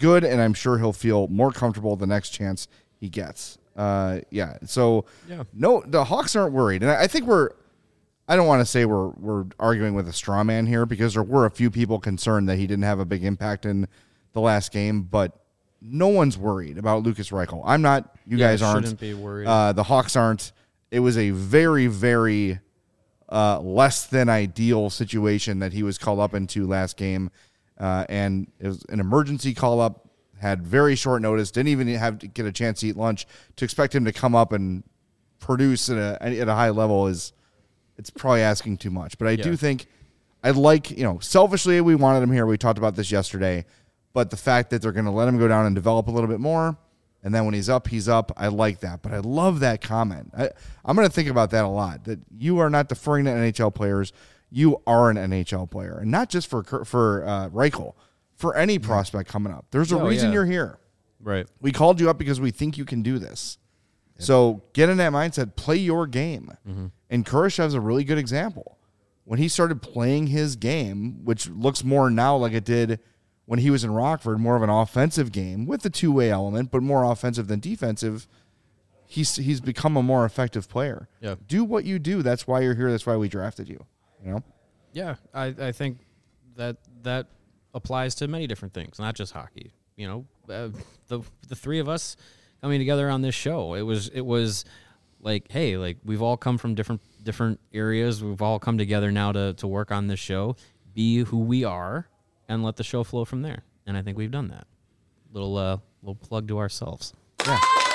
good, and I'm sure he'll feel more comfortable the next chance he gets. So no, the Hawks aren't worried, and I think I don't want to say we're arguing with a straw man here, because there were a few people concerned that he didn't have a big impact in the last game, but no one's worried about Lukas Reichel. I'm not. You guys aren't. Shouldn't be worried. The Hawks aren't. It was a very, very less than ideal situation that he was called up into last game, and it was an emergency call up. Had very short notice. Didn't even have to get a chance to eat lunch. To expect him to come up and produce at a high level it's probably asking too much. But I do think I'd like, selfishly we wanted him here. We talked about this yesterday. But the fact that they're going to let him go down and develop a little bit more, and then when he's up, I like that. But I love that comment. I'm going to think about that a lot, that you are not deferring to NHL players. You are an NHL player. And not just for Reichel, for any prospect coming up. There's a reason you're here. Right. We called you up because we think you can do this. Yep. So get in that mindset, play your game. Mm-hmm. And Kurashev's a really good example. When he started playing his game, which looks more now like it did when he was in Rockford, more of an offensive game with the two-way element, but more offensive than defensive, he's become a more effective player. Yep. Do what you do. That's why you're here. That's why we drafted you. Yeah, I think that applies to many different things, not just hockey. The three of us coming together on this show, it was like, hey, like we've all come from different areas. We've all come together now to work on this show, be who we are, and let the show flow from there. And I think we've done that. Little plug to ourselves. Yeah.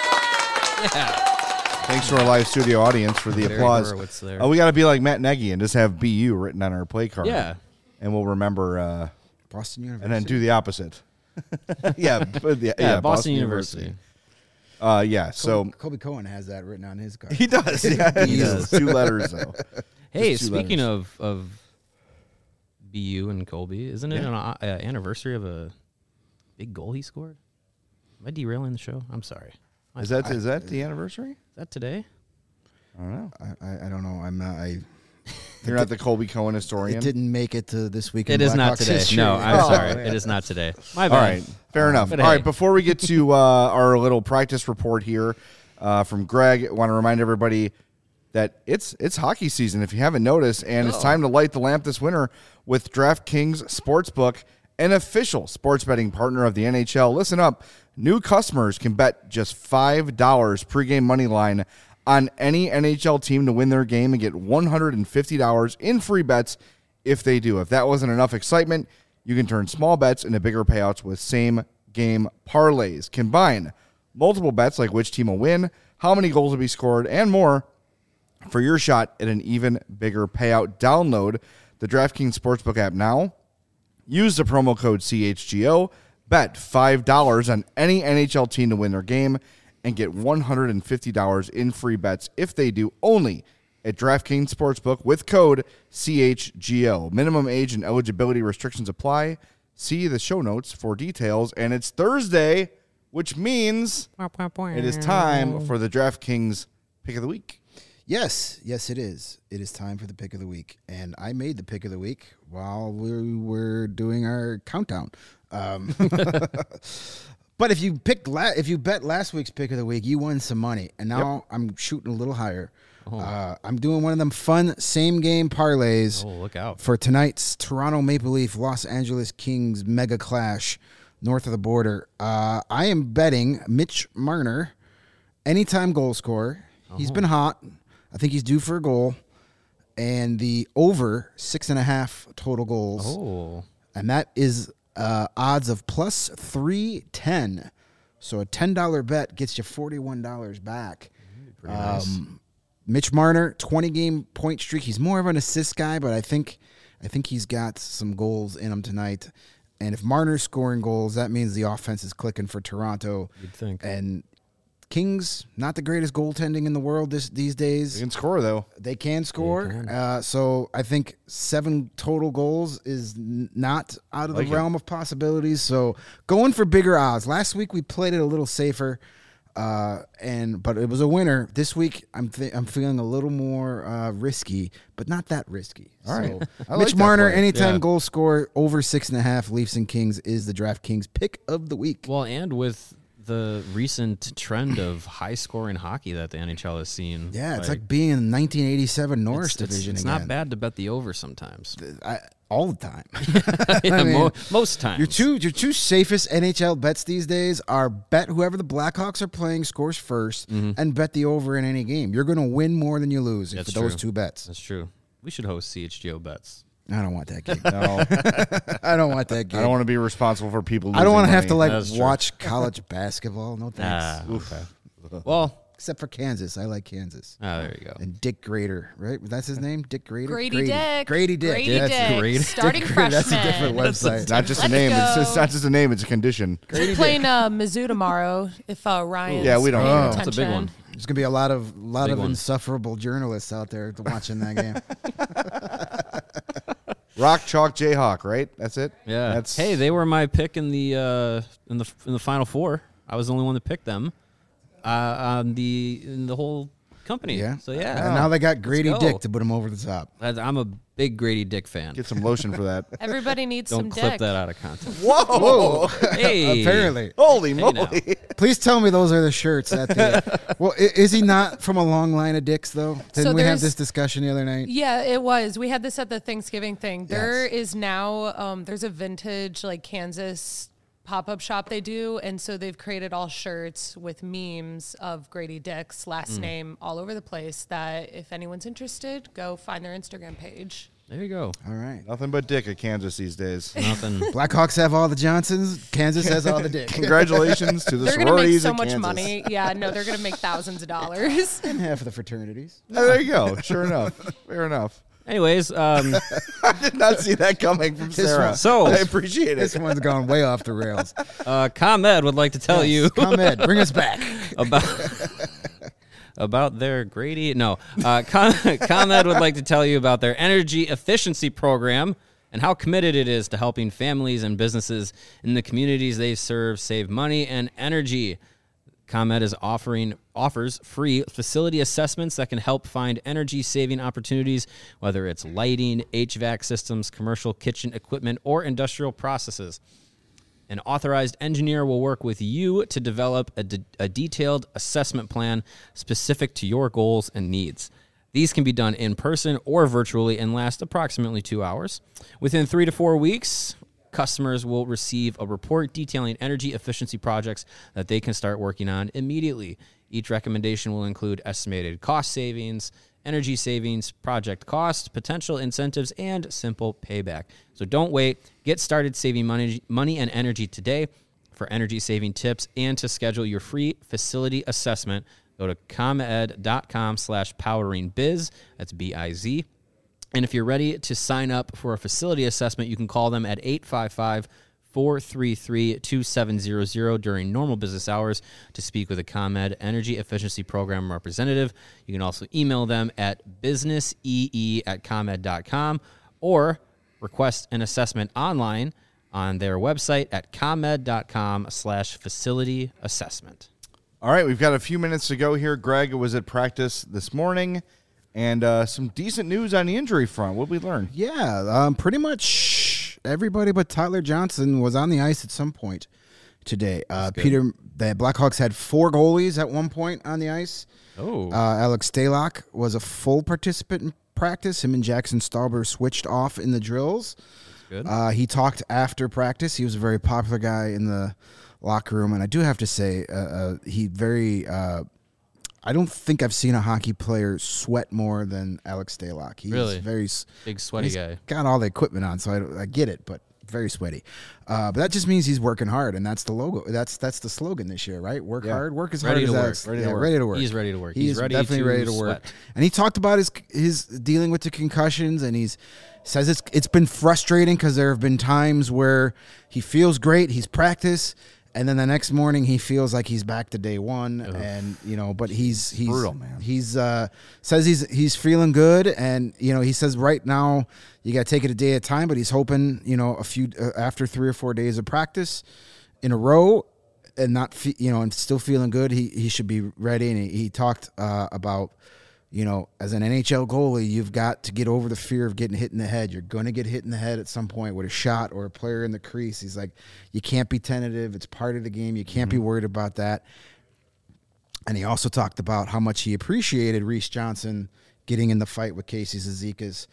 Thanks to our live studio audience for the applause. We got to be like Matt Nagy and just have BU written on our play card. Yeah. And we'll remember Boston University. And then do the opposite. Boston University. So Kobe Cohen has that written on his card. He does. Yeah, he does. 2 letters though. Hey, speaking of BU and Colby, isn't it an anniversary of a big goal he scored? Am I derailing the show? I'm sorry. Is that the anniversary? Is that today? I don't know. I don't know. I'm not. You're not the Colby Cohen historian? It didn't make it to this week. It is not today. History. No, I'm sorry. It is not today. My bad. All right. Fair enough. All right. Before we get to our little practice report here from Greg, I want to remind everybody that it's hockey season, if you haven't noticed, and it's time to light the lamp this winter with DraftKings Sportsbook, an official sports betting partner of the NHL. Listen up. New customers can bet just $5 pregame money line on any NHL team to win their game and get $150 in free bets if they do. If that wasn't enough excitement, you can turn small bets into bigger payouts with same-game parlays. Combine multiple bets like which team will win, how many goals will be scored, and more for your shot at an even bigger payout. Download the DraftKings Sportsbook app now. Use the promo code CHGO. Bet $5 on any NHL team to win their game and get $150 in free bets if they do, only at DraftKings Sportsbook with code CHGO. Minimum age and eligibility restrictions apply. See the show notes for details. And it's Thursday, which means it is time for the DraftKings Pick of the Week. Yes, it is. It is time for the Pick of the Week. And I made the Pick of the Week while we were doing our countdown. But if you bet last week's Pick of the Week, you won some money. And now I'm shooting a little higher. I'm doing one of them fun same-game parlays. Oh, look out. For tonight's Toronto Maple Leaf, Los Angeles Kings mega clash north of the border. I am betting Mitch Marner, anytime goal scorer. He's been hot. I think he's due for a goal. And the over 6.5 total goals. Oh. And that is odds of plus 310. So a $10 bet gets you $41 back. Pretty nice. Mitch Marner, 20-game point streak. He's more of an assist guy, but I think he's got some goals in him tonight. And if Marner's scoring goals, that means the offense is clicking for Toronto. You'd think. And Kings, not the greatest goaltending in the world these days. They can score, though. They can score. They can. So I think 7 total goals is not out of the realm of possibilities. So going for bigger odds. Last week we played it a little safer. But it was a winner. This week, I'm feeling a little more risky, but not that risky. All right. I like Mitch that Marner, play. anytime goal scorer over 6.5, Leafs and Kings is the DraftKings pick of the week. Well, and with the recent trend of high-scoring hockey that the NHL has seen. Yeah, it's like being in the 1987 Norris division It's again. not bad to bet the over sometimes. All the time. Yeah, I mean, most times. Your two safest NHL bets these days are bet whoever the Blackhawks are playing scores first and bet the over in any game. You're going to win more than you lose That's for those true. two bets. That's true. We should host CHGO bets. I don't want that gig. No, I don't want that gig. I don't want to be responsible for people. I don't want to have to money. That's true. watch college basketball. No thanks. Okay. Well, Except for Kansas. I like Kansas. there you go. And Dick Grader, right? That's his name? Dick Grader? Grady Dick. Grady Dick. Grady Yeah, Dick. great. Starting Dick Grader. freshman. That's a different website. It's not just a Let's name. go. It's not just a name. It's a condition. We're playing Mizzou tomorrow. If Ryan's Yeah, we don't paying know. attention. That's a big one. There's going to be a lot of Big one. insufferable journalists out there watching that game. Rock Chalk Jayhawk, right? That's it. Yeah. That's Hey, they were my pick in the Final Four. I was the only one that picked them. In the whole company. Yeah. So yeah. And now they got Grady go. Dick to put him over the top. I'm a big Grady Dick fan. get some lotion for that. Everybody needs Don't some clip dick. that out of context. Whoa! Hey. Apparently. Holy Hey, now. moly! Please tell me those are the shirts. Well, is he not from a long line of dicks, though? Didn't So we have there's- this discussion the other night? Yeah, it was. We had this at the Thanksgiving thing. There Yes. is now there's a vintage Kansas pop-up shop they do, and so they've created all shirts with memes of Grady Dick's last name all over the place, that if anyone's interested, go find their Instagram page. There you go. All right. Nothing but dick at Kansas these days. Nothing. Blackhawks have all the Johnsons. Kansas has all the Dick. Congratulations to the They're going to make sororities so at much Kansas. money. Yeah, no, they're going to make thousands of dollars. And half of the fraternities. Oh, there you go. Sure enough. Fair enough. Anyways, I did not see that coming from Sarah. so- I appreciate This it. one's gone way off the rails. ComEd would like to tell you ComEd, bring us back. about their Grady. No, ComEd would like to tell you about their energy efficiency program and how committed it is to helping families and businesses in the communities they serve save money and energy. ComEd offers free facility assessments that can help find energy-saving opportunities, whether it's lighting, HVAC systems, commercial kitchen equipment, or industrial processes. An authorized engineer will work with you to develop a detailed assessment plan specific to your goals and needs. These can be done in person or virtually and last approximately 2 hours. Within 3 to 4 weeks, customers will receive a report detailing energy efficiency projects that they can start working on immediately. Each recommendation will include estimated cost savings, energy savings, project cost, potential incentives, and simple payback. So don't wait. Get started saving money and energy today. For energy saving tips and to schedule your free facility assessment, go to comed.com/poweringbiz. That's B-I-Z. And if you're ready to sign up for a facility assessment, you can call them at 855-433-2700 during normal business hours to speak with a ComEd Energy Efficiency Program representative. You can also email them at businessee@comed.com or request an assessment online on their website at comed.com/facility assessment. All right, we've got a few minutes to go here. Greg was at practice this morning, and some decent news on the injury front. What did we learn? Yeah, pretty much everybody but Tyler Johnson was on the ice at some point today. The Blackhawks had 4 goalies at one point on the ice. Oh. Alex Stalock was a full participant in practice. Him and Jackson Stauber switched off in the drills. Good. He talked after practice. He was a very popular guy in the locker room, and I do have to say, I don't think I've seen a hockey player sweat more than Alex Stalock. He's Really? very Big sweaty guy. got all the equipment on, so I get it, but very sweaty. But that just means he's working hard, and that's the logo. That's the slogan this year, right? Work hard, work as Ready hard to as work. ready to work. He's ready to work. He's ready definitely to ready to work. sweat. And he talked about his dealing with the concussions, and he says it's been frustrating because there have been times where he feels great, he's practiced, and then the next morning he feels like he's back to day one, and but he's brutal, man. He's says he's feeling good, and he says right now you got to take it a day at a time, but he's hoping a few after 3 or 4 days of practice in a row, and not and still feeling good, he should be ready. And he talked about, as an NHL goalie, you've got to get over the fear of getting hit in the head. You're going to get hit in the head at some point with a shot or a player in the crease. He's like, you can't be tentative. It's part of the game. You can't be worried about that. And he also talked about how much he appreciated Reese Johnson getting in the fight with Casey Cizikas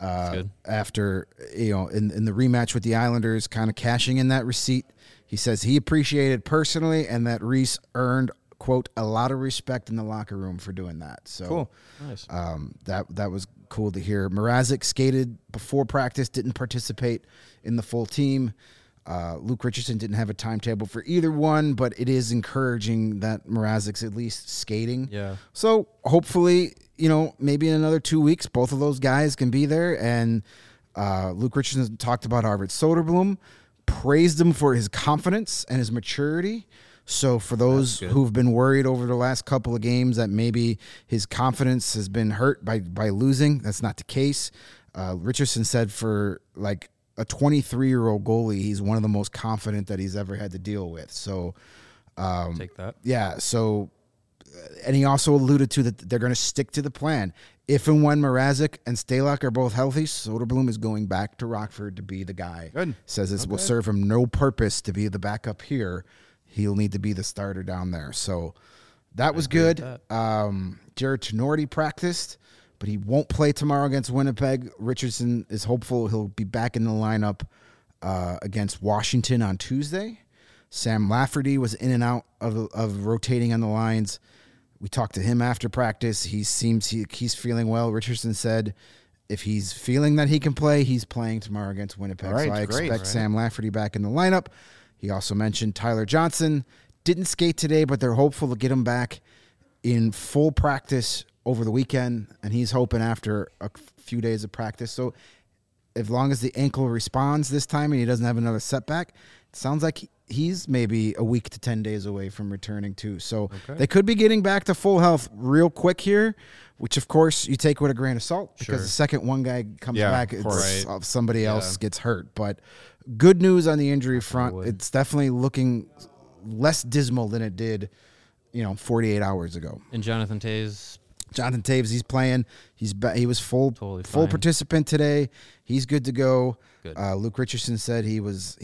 after, in the rematch with the Islanders, kind of cashing in that receipt. He says he appreciated personally and that Reese earned, quote, a lot of respect in the locker room for doing that. So cool. Nice. That was cool to hear. Mrazek skated before practice, didn't participate in the full team. Luke Richardson didn't have a timetable for either one, but it is encouraging that Mrazek's at least skating. Yeah. So hopefully, maybe in another 2 weeks, both of those guys can be there. And Luke Richardson talked about Arvid Soderblom, praised him for his confidence and his maturity. So for those who've been worried over the last couple of games that maybe his confidence has been hurt by losing, that's not the case. Richardson said for like a 23-year-old goalie, he's one of the most confident that he's ever had to deal with. So take that. Yeah. So, and he also alluded to that they're going to stick to the plan. If and when Mrazek and Stalock are both healthy, Soderblom is going back to Rockford to be the guy. Good. Says this will serve him no purpose to be the backup here. He'll need to be the starter down there. So that was good. Jared Tenorti practiced, but he won't play tomorrow against Winnipeg. Richardson is hopeful he'll be back in the lineup against Washington on Tuesday. Sam Lafferty was in and out of rotating on the lines. We talked to him after practice. He's feeling well. Richardson said if he's feeling that he can play, he's playing tomorrow against Winnipeg. Right, so I great. expect Sam Lafferty back in the lineup. He also mentioned Tyler Johnson. Didn't skate today, but they're hopeful to get him back in full practice over the weekend, and he's hoping after a few days of practice. So as long as the ankle responds this time and he doesn't have another setback, it sounds like he's maybe a week to 10 days away from returning too. So they could be getting back to full health real quick here, which of course you take with a grain of salt because the second one guy comes back, somebody else gets hurt. But good news on the injury front. It's definitely looking less dismal than it did, 48 hours ago. And Jonathan Toews, he's playing. He was full participant today. He's good to go. Good. Luke Richardson said he was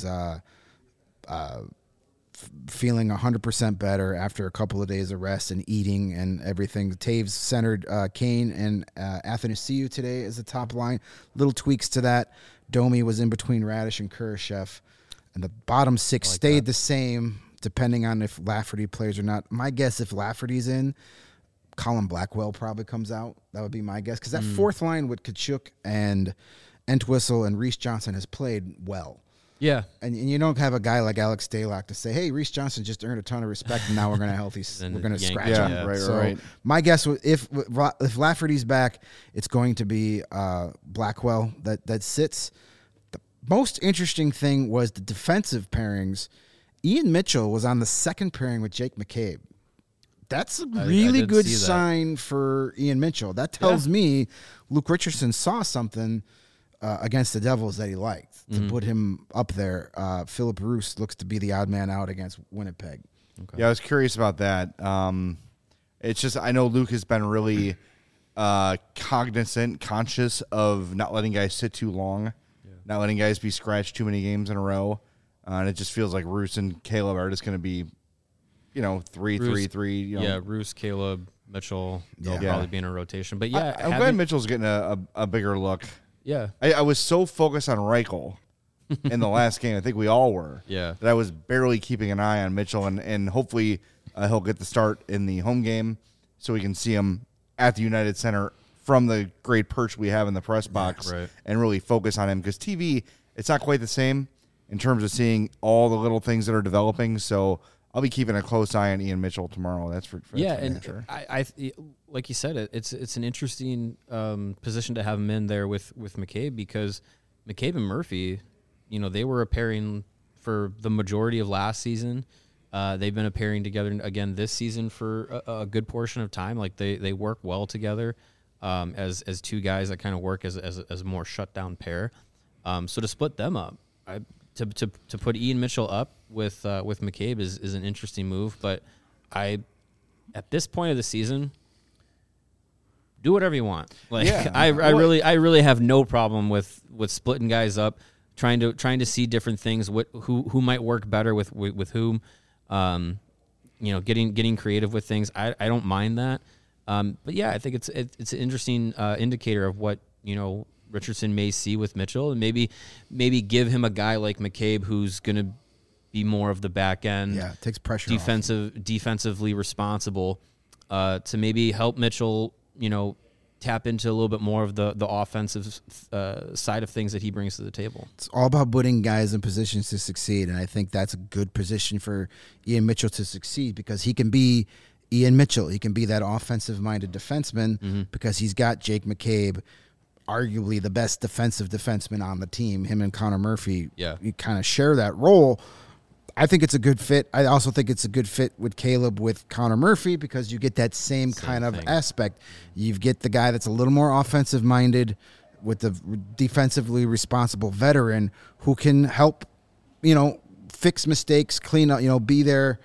feeling 100% better after a couple of days of rest and eating and everything. Taves centered Kane and Athanasiou today as the top line. Little tweaks to that. Domi was in between Radish and Kurashev. And the bottom six stayed the same depending on if Lafferty plays or not. My guess, if Lafferty's in, Colin Blackwell probably comes out. That would be my guess. Because that fourth line with Tkachuk and Entwistle and Reese Johnson has played well. Yeah. And you don't have a guy like Alex Stalock to say, hey, Reese Johnson just earned a ton of respect, and now we're going to scratch him. Yeah, right, so right. My guess, if Lafferty's back, it's going to be Blackwell that sits. The most interesting thing was the defensive pairings. Ian Mitchell was on the second pairing with Jake McCabe. That's a really good sign for Ian Mitchell. That tells me Luke Richardson saw something against the Devils that he liked to put him up there. Philip Roos looks to be the odd man out against Winnipeg. Okay. Yeah, I was curious about that. It's just I know Luke has been really conscious of not letting guys sit too long, not letting guys be scratched too many games in a row. And it just feels like Roos and Caleb are just going to be, 3-3-3. Roos, Caleb, Mitchell, they'll probably be in a rotation. But I'm glad Mitchell's getting a bigger look. Yeah. I was so focused on Reichel in the last game. I think we all were. Yeah. That I was barely keeping an eye on Mitchell, and hopefully he'll get the start in the home game so we can see him at the United Center from the great perch we have in the press box and really focus on him because TV, it's not quite the same in terms of seeing all the little things that are developing. So I'll be keeping a close eye on Ian Mitchell tomorrow. That's for sure. I like you said, it's an interesting position to have him in there with McCabe because McCabe and Murphy, they were a pairing for the majority of last season. They've been a pairing together again this season for a good portion of time. Like they work well together as two guys that kind of work as a more shut down pair. So to split them up, to put Ian Mitchell up with McCabe is an interesting move. But at this point of the season, do whatever you want. Like I really have no problem with splitting guys up, trying to see different things. Who might work better with whom. Getting creative with things. I don't mind that. But yeah, I think it's an interesting indicator of what Richardson may see with Mitchell, and maybe give him a guy like McCabe who's going to be more of the back end. Yeah, takes pressure defensively responsible to maybe help Mitchell, tap into a little bit more of the offensive side of things that he brings to the table. It's all about putting guys in positions to succeed, and I think that's a good position for Ian Mitchell to succeed because he can be Ian Mitchell. He can be that offensive-minded defenseman because he's got Jake McCabe, arguably the best defensive defenseman on the team. Him and Connor Murphy, you kind of share that role. I think it's a good fit. I also think it's a good fit with Caleb with Connor Murphy because you get that same kind of aspect. You get the guy that's a little more offensive-minded with the defensively responsible veteran who can help, fix mistakes, clean up, be there,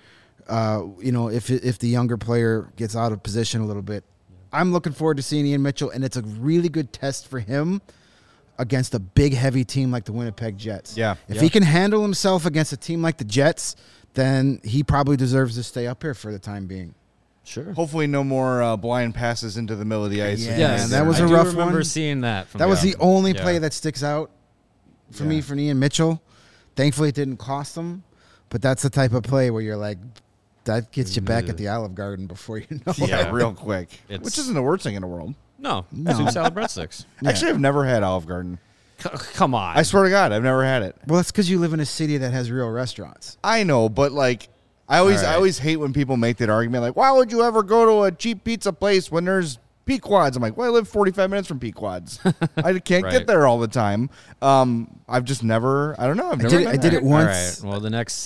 if the younger player gets out of position a little bit. I'm looking forward to seeing Ian Mitchell, and it's a really good test for him against a big, heavy team like the Winnipeg Jets. Yeah. If he can handle himself against a team like the Jets, then he probably deserves to stay up here for the time being. Sure. Hopefully no more blind passes into the middle of the ice. Yeah, that was a rough one. I remember seeing that. That was the only play that sticks out for me for Ian Mitchell. Thankfully, it didn't cost him, but that's the type of play where you're like, that gets you back at the Olive Garden before you know it. Yeah, real quick. Which isn't the worst thing in the world. No. Soup salad breadsticks. Actually, I've never had Olive Garden. Come on. I swear to God, I've never had it. Well, it's because you live in a city that has real restaurants. I know, but I always hate when people make that argument. Like, why would you ever go to a cheap pizza place when there's Pequod's? I'm like, well, I live 45 minutes from Pequod's. I can't get there all the time. I've just never. I don't know. I did it once. All right. Well, the next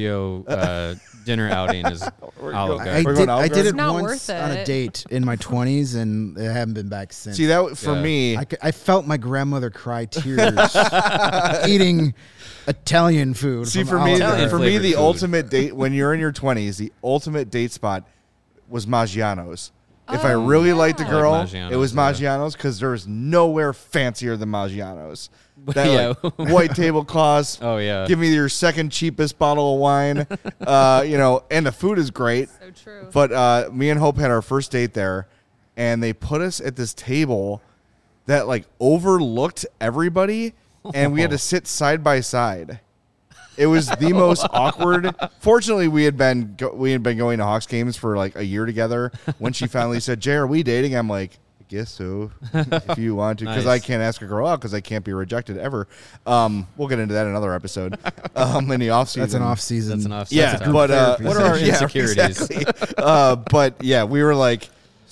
CHGO dinner outing is Olive Garden. I did it not once worth it. on a date in my 20s, and I haven't been back since. See, that for me, I felt my grandmother cry tears eating Italian food. See, from for me, Olive Garden. the ultimate date when you're in your 20s, the ultimate date spot was Maggiano's. If I really liked a girl, it was Maggiano's because there's nowhere fancier than Maggiano's. That white tablecloths. Oh yeah. Give me your second cheapest bottle of wine. And the food is great. So true. But me and Hope had our first date there, and they put us at this table that overlooked everybody, and we had to sit side by side. It was the most awkward. Fortunately, we had been going to Hawks games for a year together. When she finally said, "Jay, are we dating?" I'm like, "I guess so, if you want to," because I can't ask a girl out because I can't be rejected ever. We'll get into that in another episode. In the off season, That's an off season. Yeah, but what are our insecurities? Exactly. But yeah, we were like,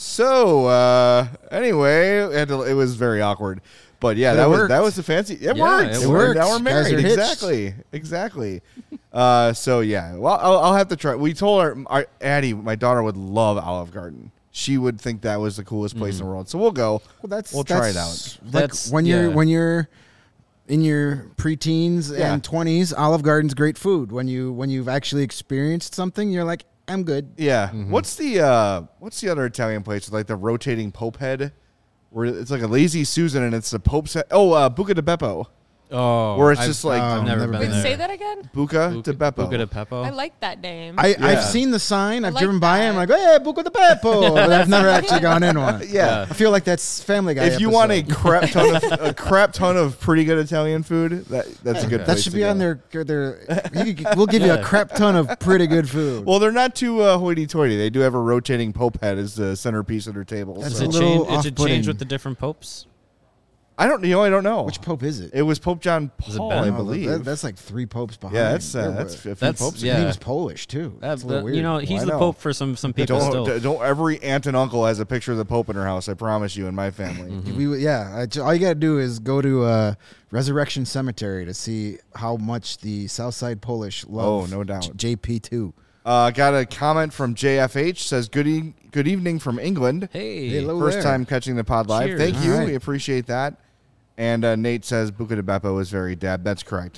so anyway, it was very awkward. But yeah, that was the fancy. It worked. It worked. Now we're married. Guys are hitched. Exactly. So yeah, well, I'll have to try. We told our Addie, my daughter, would love Olive Garden. She would think that was the coolest place in the world. So we'll go. Well, we'll try it out. When you're in your preteens and 20s, Olive Garden's great food. When you've actually experienced something, you're like, I'm good. Yeah. What's the other Italian place with the rotating Pope head? Where it's like a lazy Susan and it's the Pope's head. Buca di Beppo. Oh, where it's just I've never been Wait, there. say that again. Buca di Beppo. Buca di Beppo. I like that name. I've seen the sign. I've like driven by it. I'm that. like, hey, Buca di Beppo. But I've never actually gone in one. Yeah. I feel like that's Family Guy. If you want a crap ton of pretty good Italian food, that's a good place that should to be go. on their we'll give you a crap ton of pretty good food. Well, they're not too hoity-toity. They do have a rotating Pope head as the centerpiece of their table. That's So. a little Does it change off-putting. with the different popes? I don't know. Which Pope is it? It was Pope John it Paul, Ben? I Oh, believe. That's like 3 popes behind. Yeah, that's a few popes. yeah. He was Polish too. That's a little weird. He's I the know. pope for some people still. Don't every aunt and uncle has a picture of the Pope in her house. I promise you, in my family. All you got to do is go to Resurrection Cemetery to see how much the Southside Polish love. Oh, no doubt. JP2. Got a comment from JFH. Says good evening from England. Hey, Hello. First there. time catching the pod live. Cheers. Thank you. All right. We appreciate that. And Nate says Buca di Beppo is very dab. That's correct.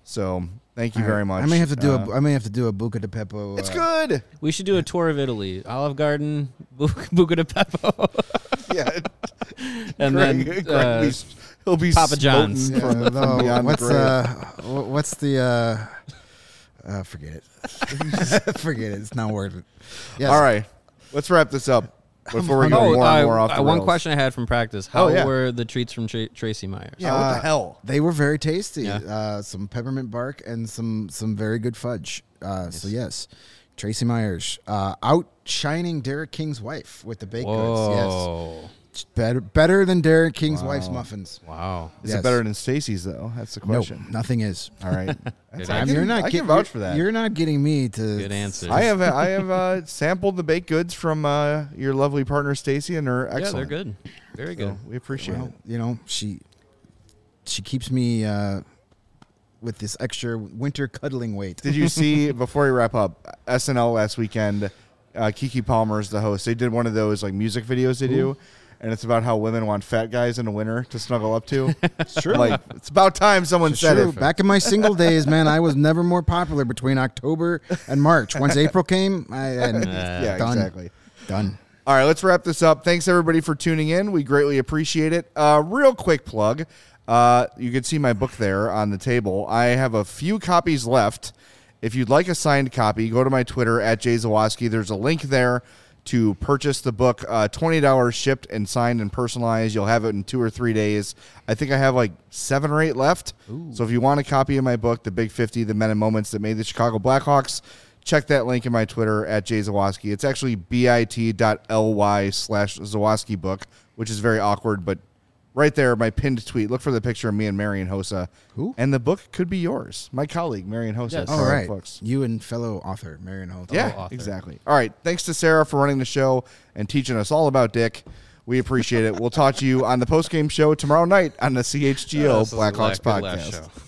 So thank you very much. I may have to do I may have to do a Buca di Beppo. It's good. We should do a tour of Italy. Olive Garden, Buca di Beppo. Yeah. And Greg, then he'll be Papa John's. smoting from beyond the grave. What's the forget it. Forget it. It's not worth it. Yes. All right. Let's wrap this up before we go more and more off the one rails. question I had from practice. How yeah. were the treats from Tracy Myers? Yeah, what the hell? They were very tasty. Yeah. Some peppermint bark and some very good fudge. So yes, Tracy Myers outshining Derek King's wife with the baked goods. Whoa. Yes, better than Derek King's wife's muffins. Wow. Is Yes. it better than Stacy's, though? That's the question. No, nothing is. All right. Good I answer. can- I can vouch for that. You're not getting me to. Good answer. I have sampled the baked goods from your lovely partner Stacy, and they're excellent. Yeah, they're good. Very good. So we appreciate Well, it. you know, she keeps me with this extra winter cuddling weight. Did you see, before we wrap up, SNL last weekend, Keke Palmer is the host. They did one of those like music videos they do, and it's about how women want fat guys in the winter to snuggle up to. It's true. Like, it's about time someone said True. it. Back in my single days, man, I was never more popular between October and March. Once April came, Yeah, done. exactly. Done. All right, let's wrap this up. Thanks, everybody, for tuning in. We greatly appreciate it. Real quick plug. You can see my book there on the table. I have a few copies left. If you'd like a signed copy, go to my Twitter, @JZawoski. There's a link there to purchase the book. $20 shipped and signed and personalized. You'll have it in 2 or 3 days. I think I have like 7 or 8 left. Ooh. So if you want a copy of my book, The Big 50, The Men and Moments That Made the Chicago Blackhawks, check that link in my Twitter, @JZawoski. It's actually bit.ly/Zawoski book, which is very awkward, but right there, my pinned tweet. Look for the picture of me and Marian Hossa. Who? And the book could be yours. My colleague, Marian Hossa. Yes. at All Scarlet right. Books. You and fellow author, Marian Holt. Yeah, author. exactly. All right. Thanks to Sarah for running the show and teaching us all about Dick. We appreciate it. We'll talk to you on the postgame show tomorrow night on the CHGO This is Blackhawks a good last podcast. show.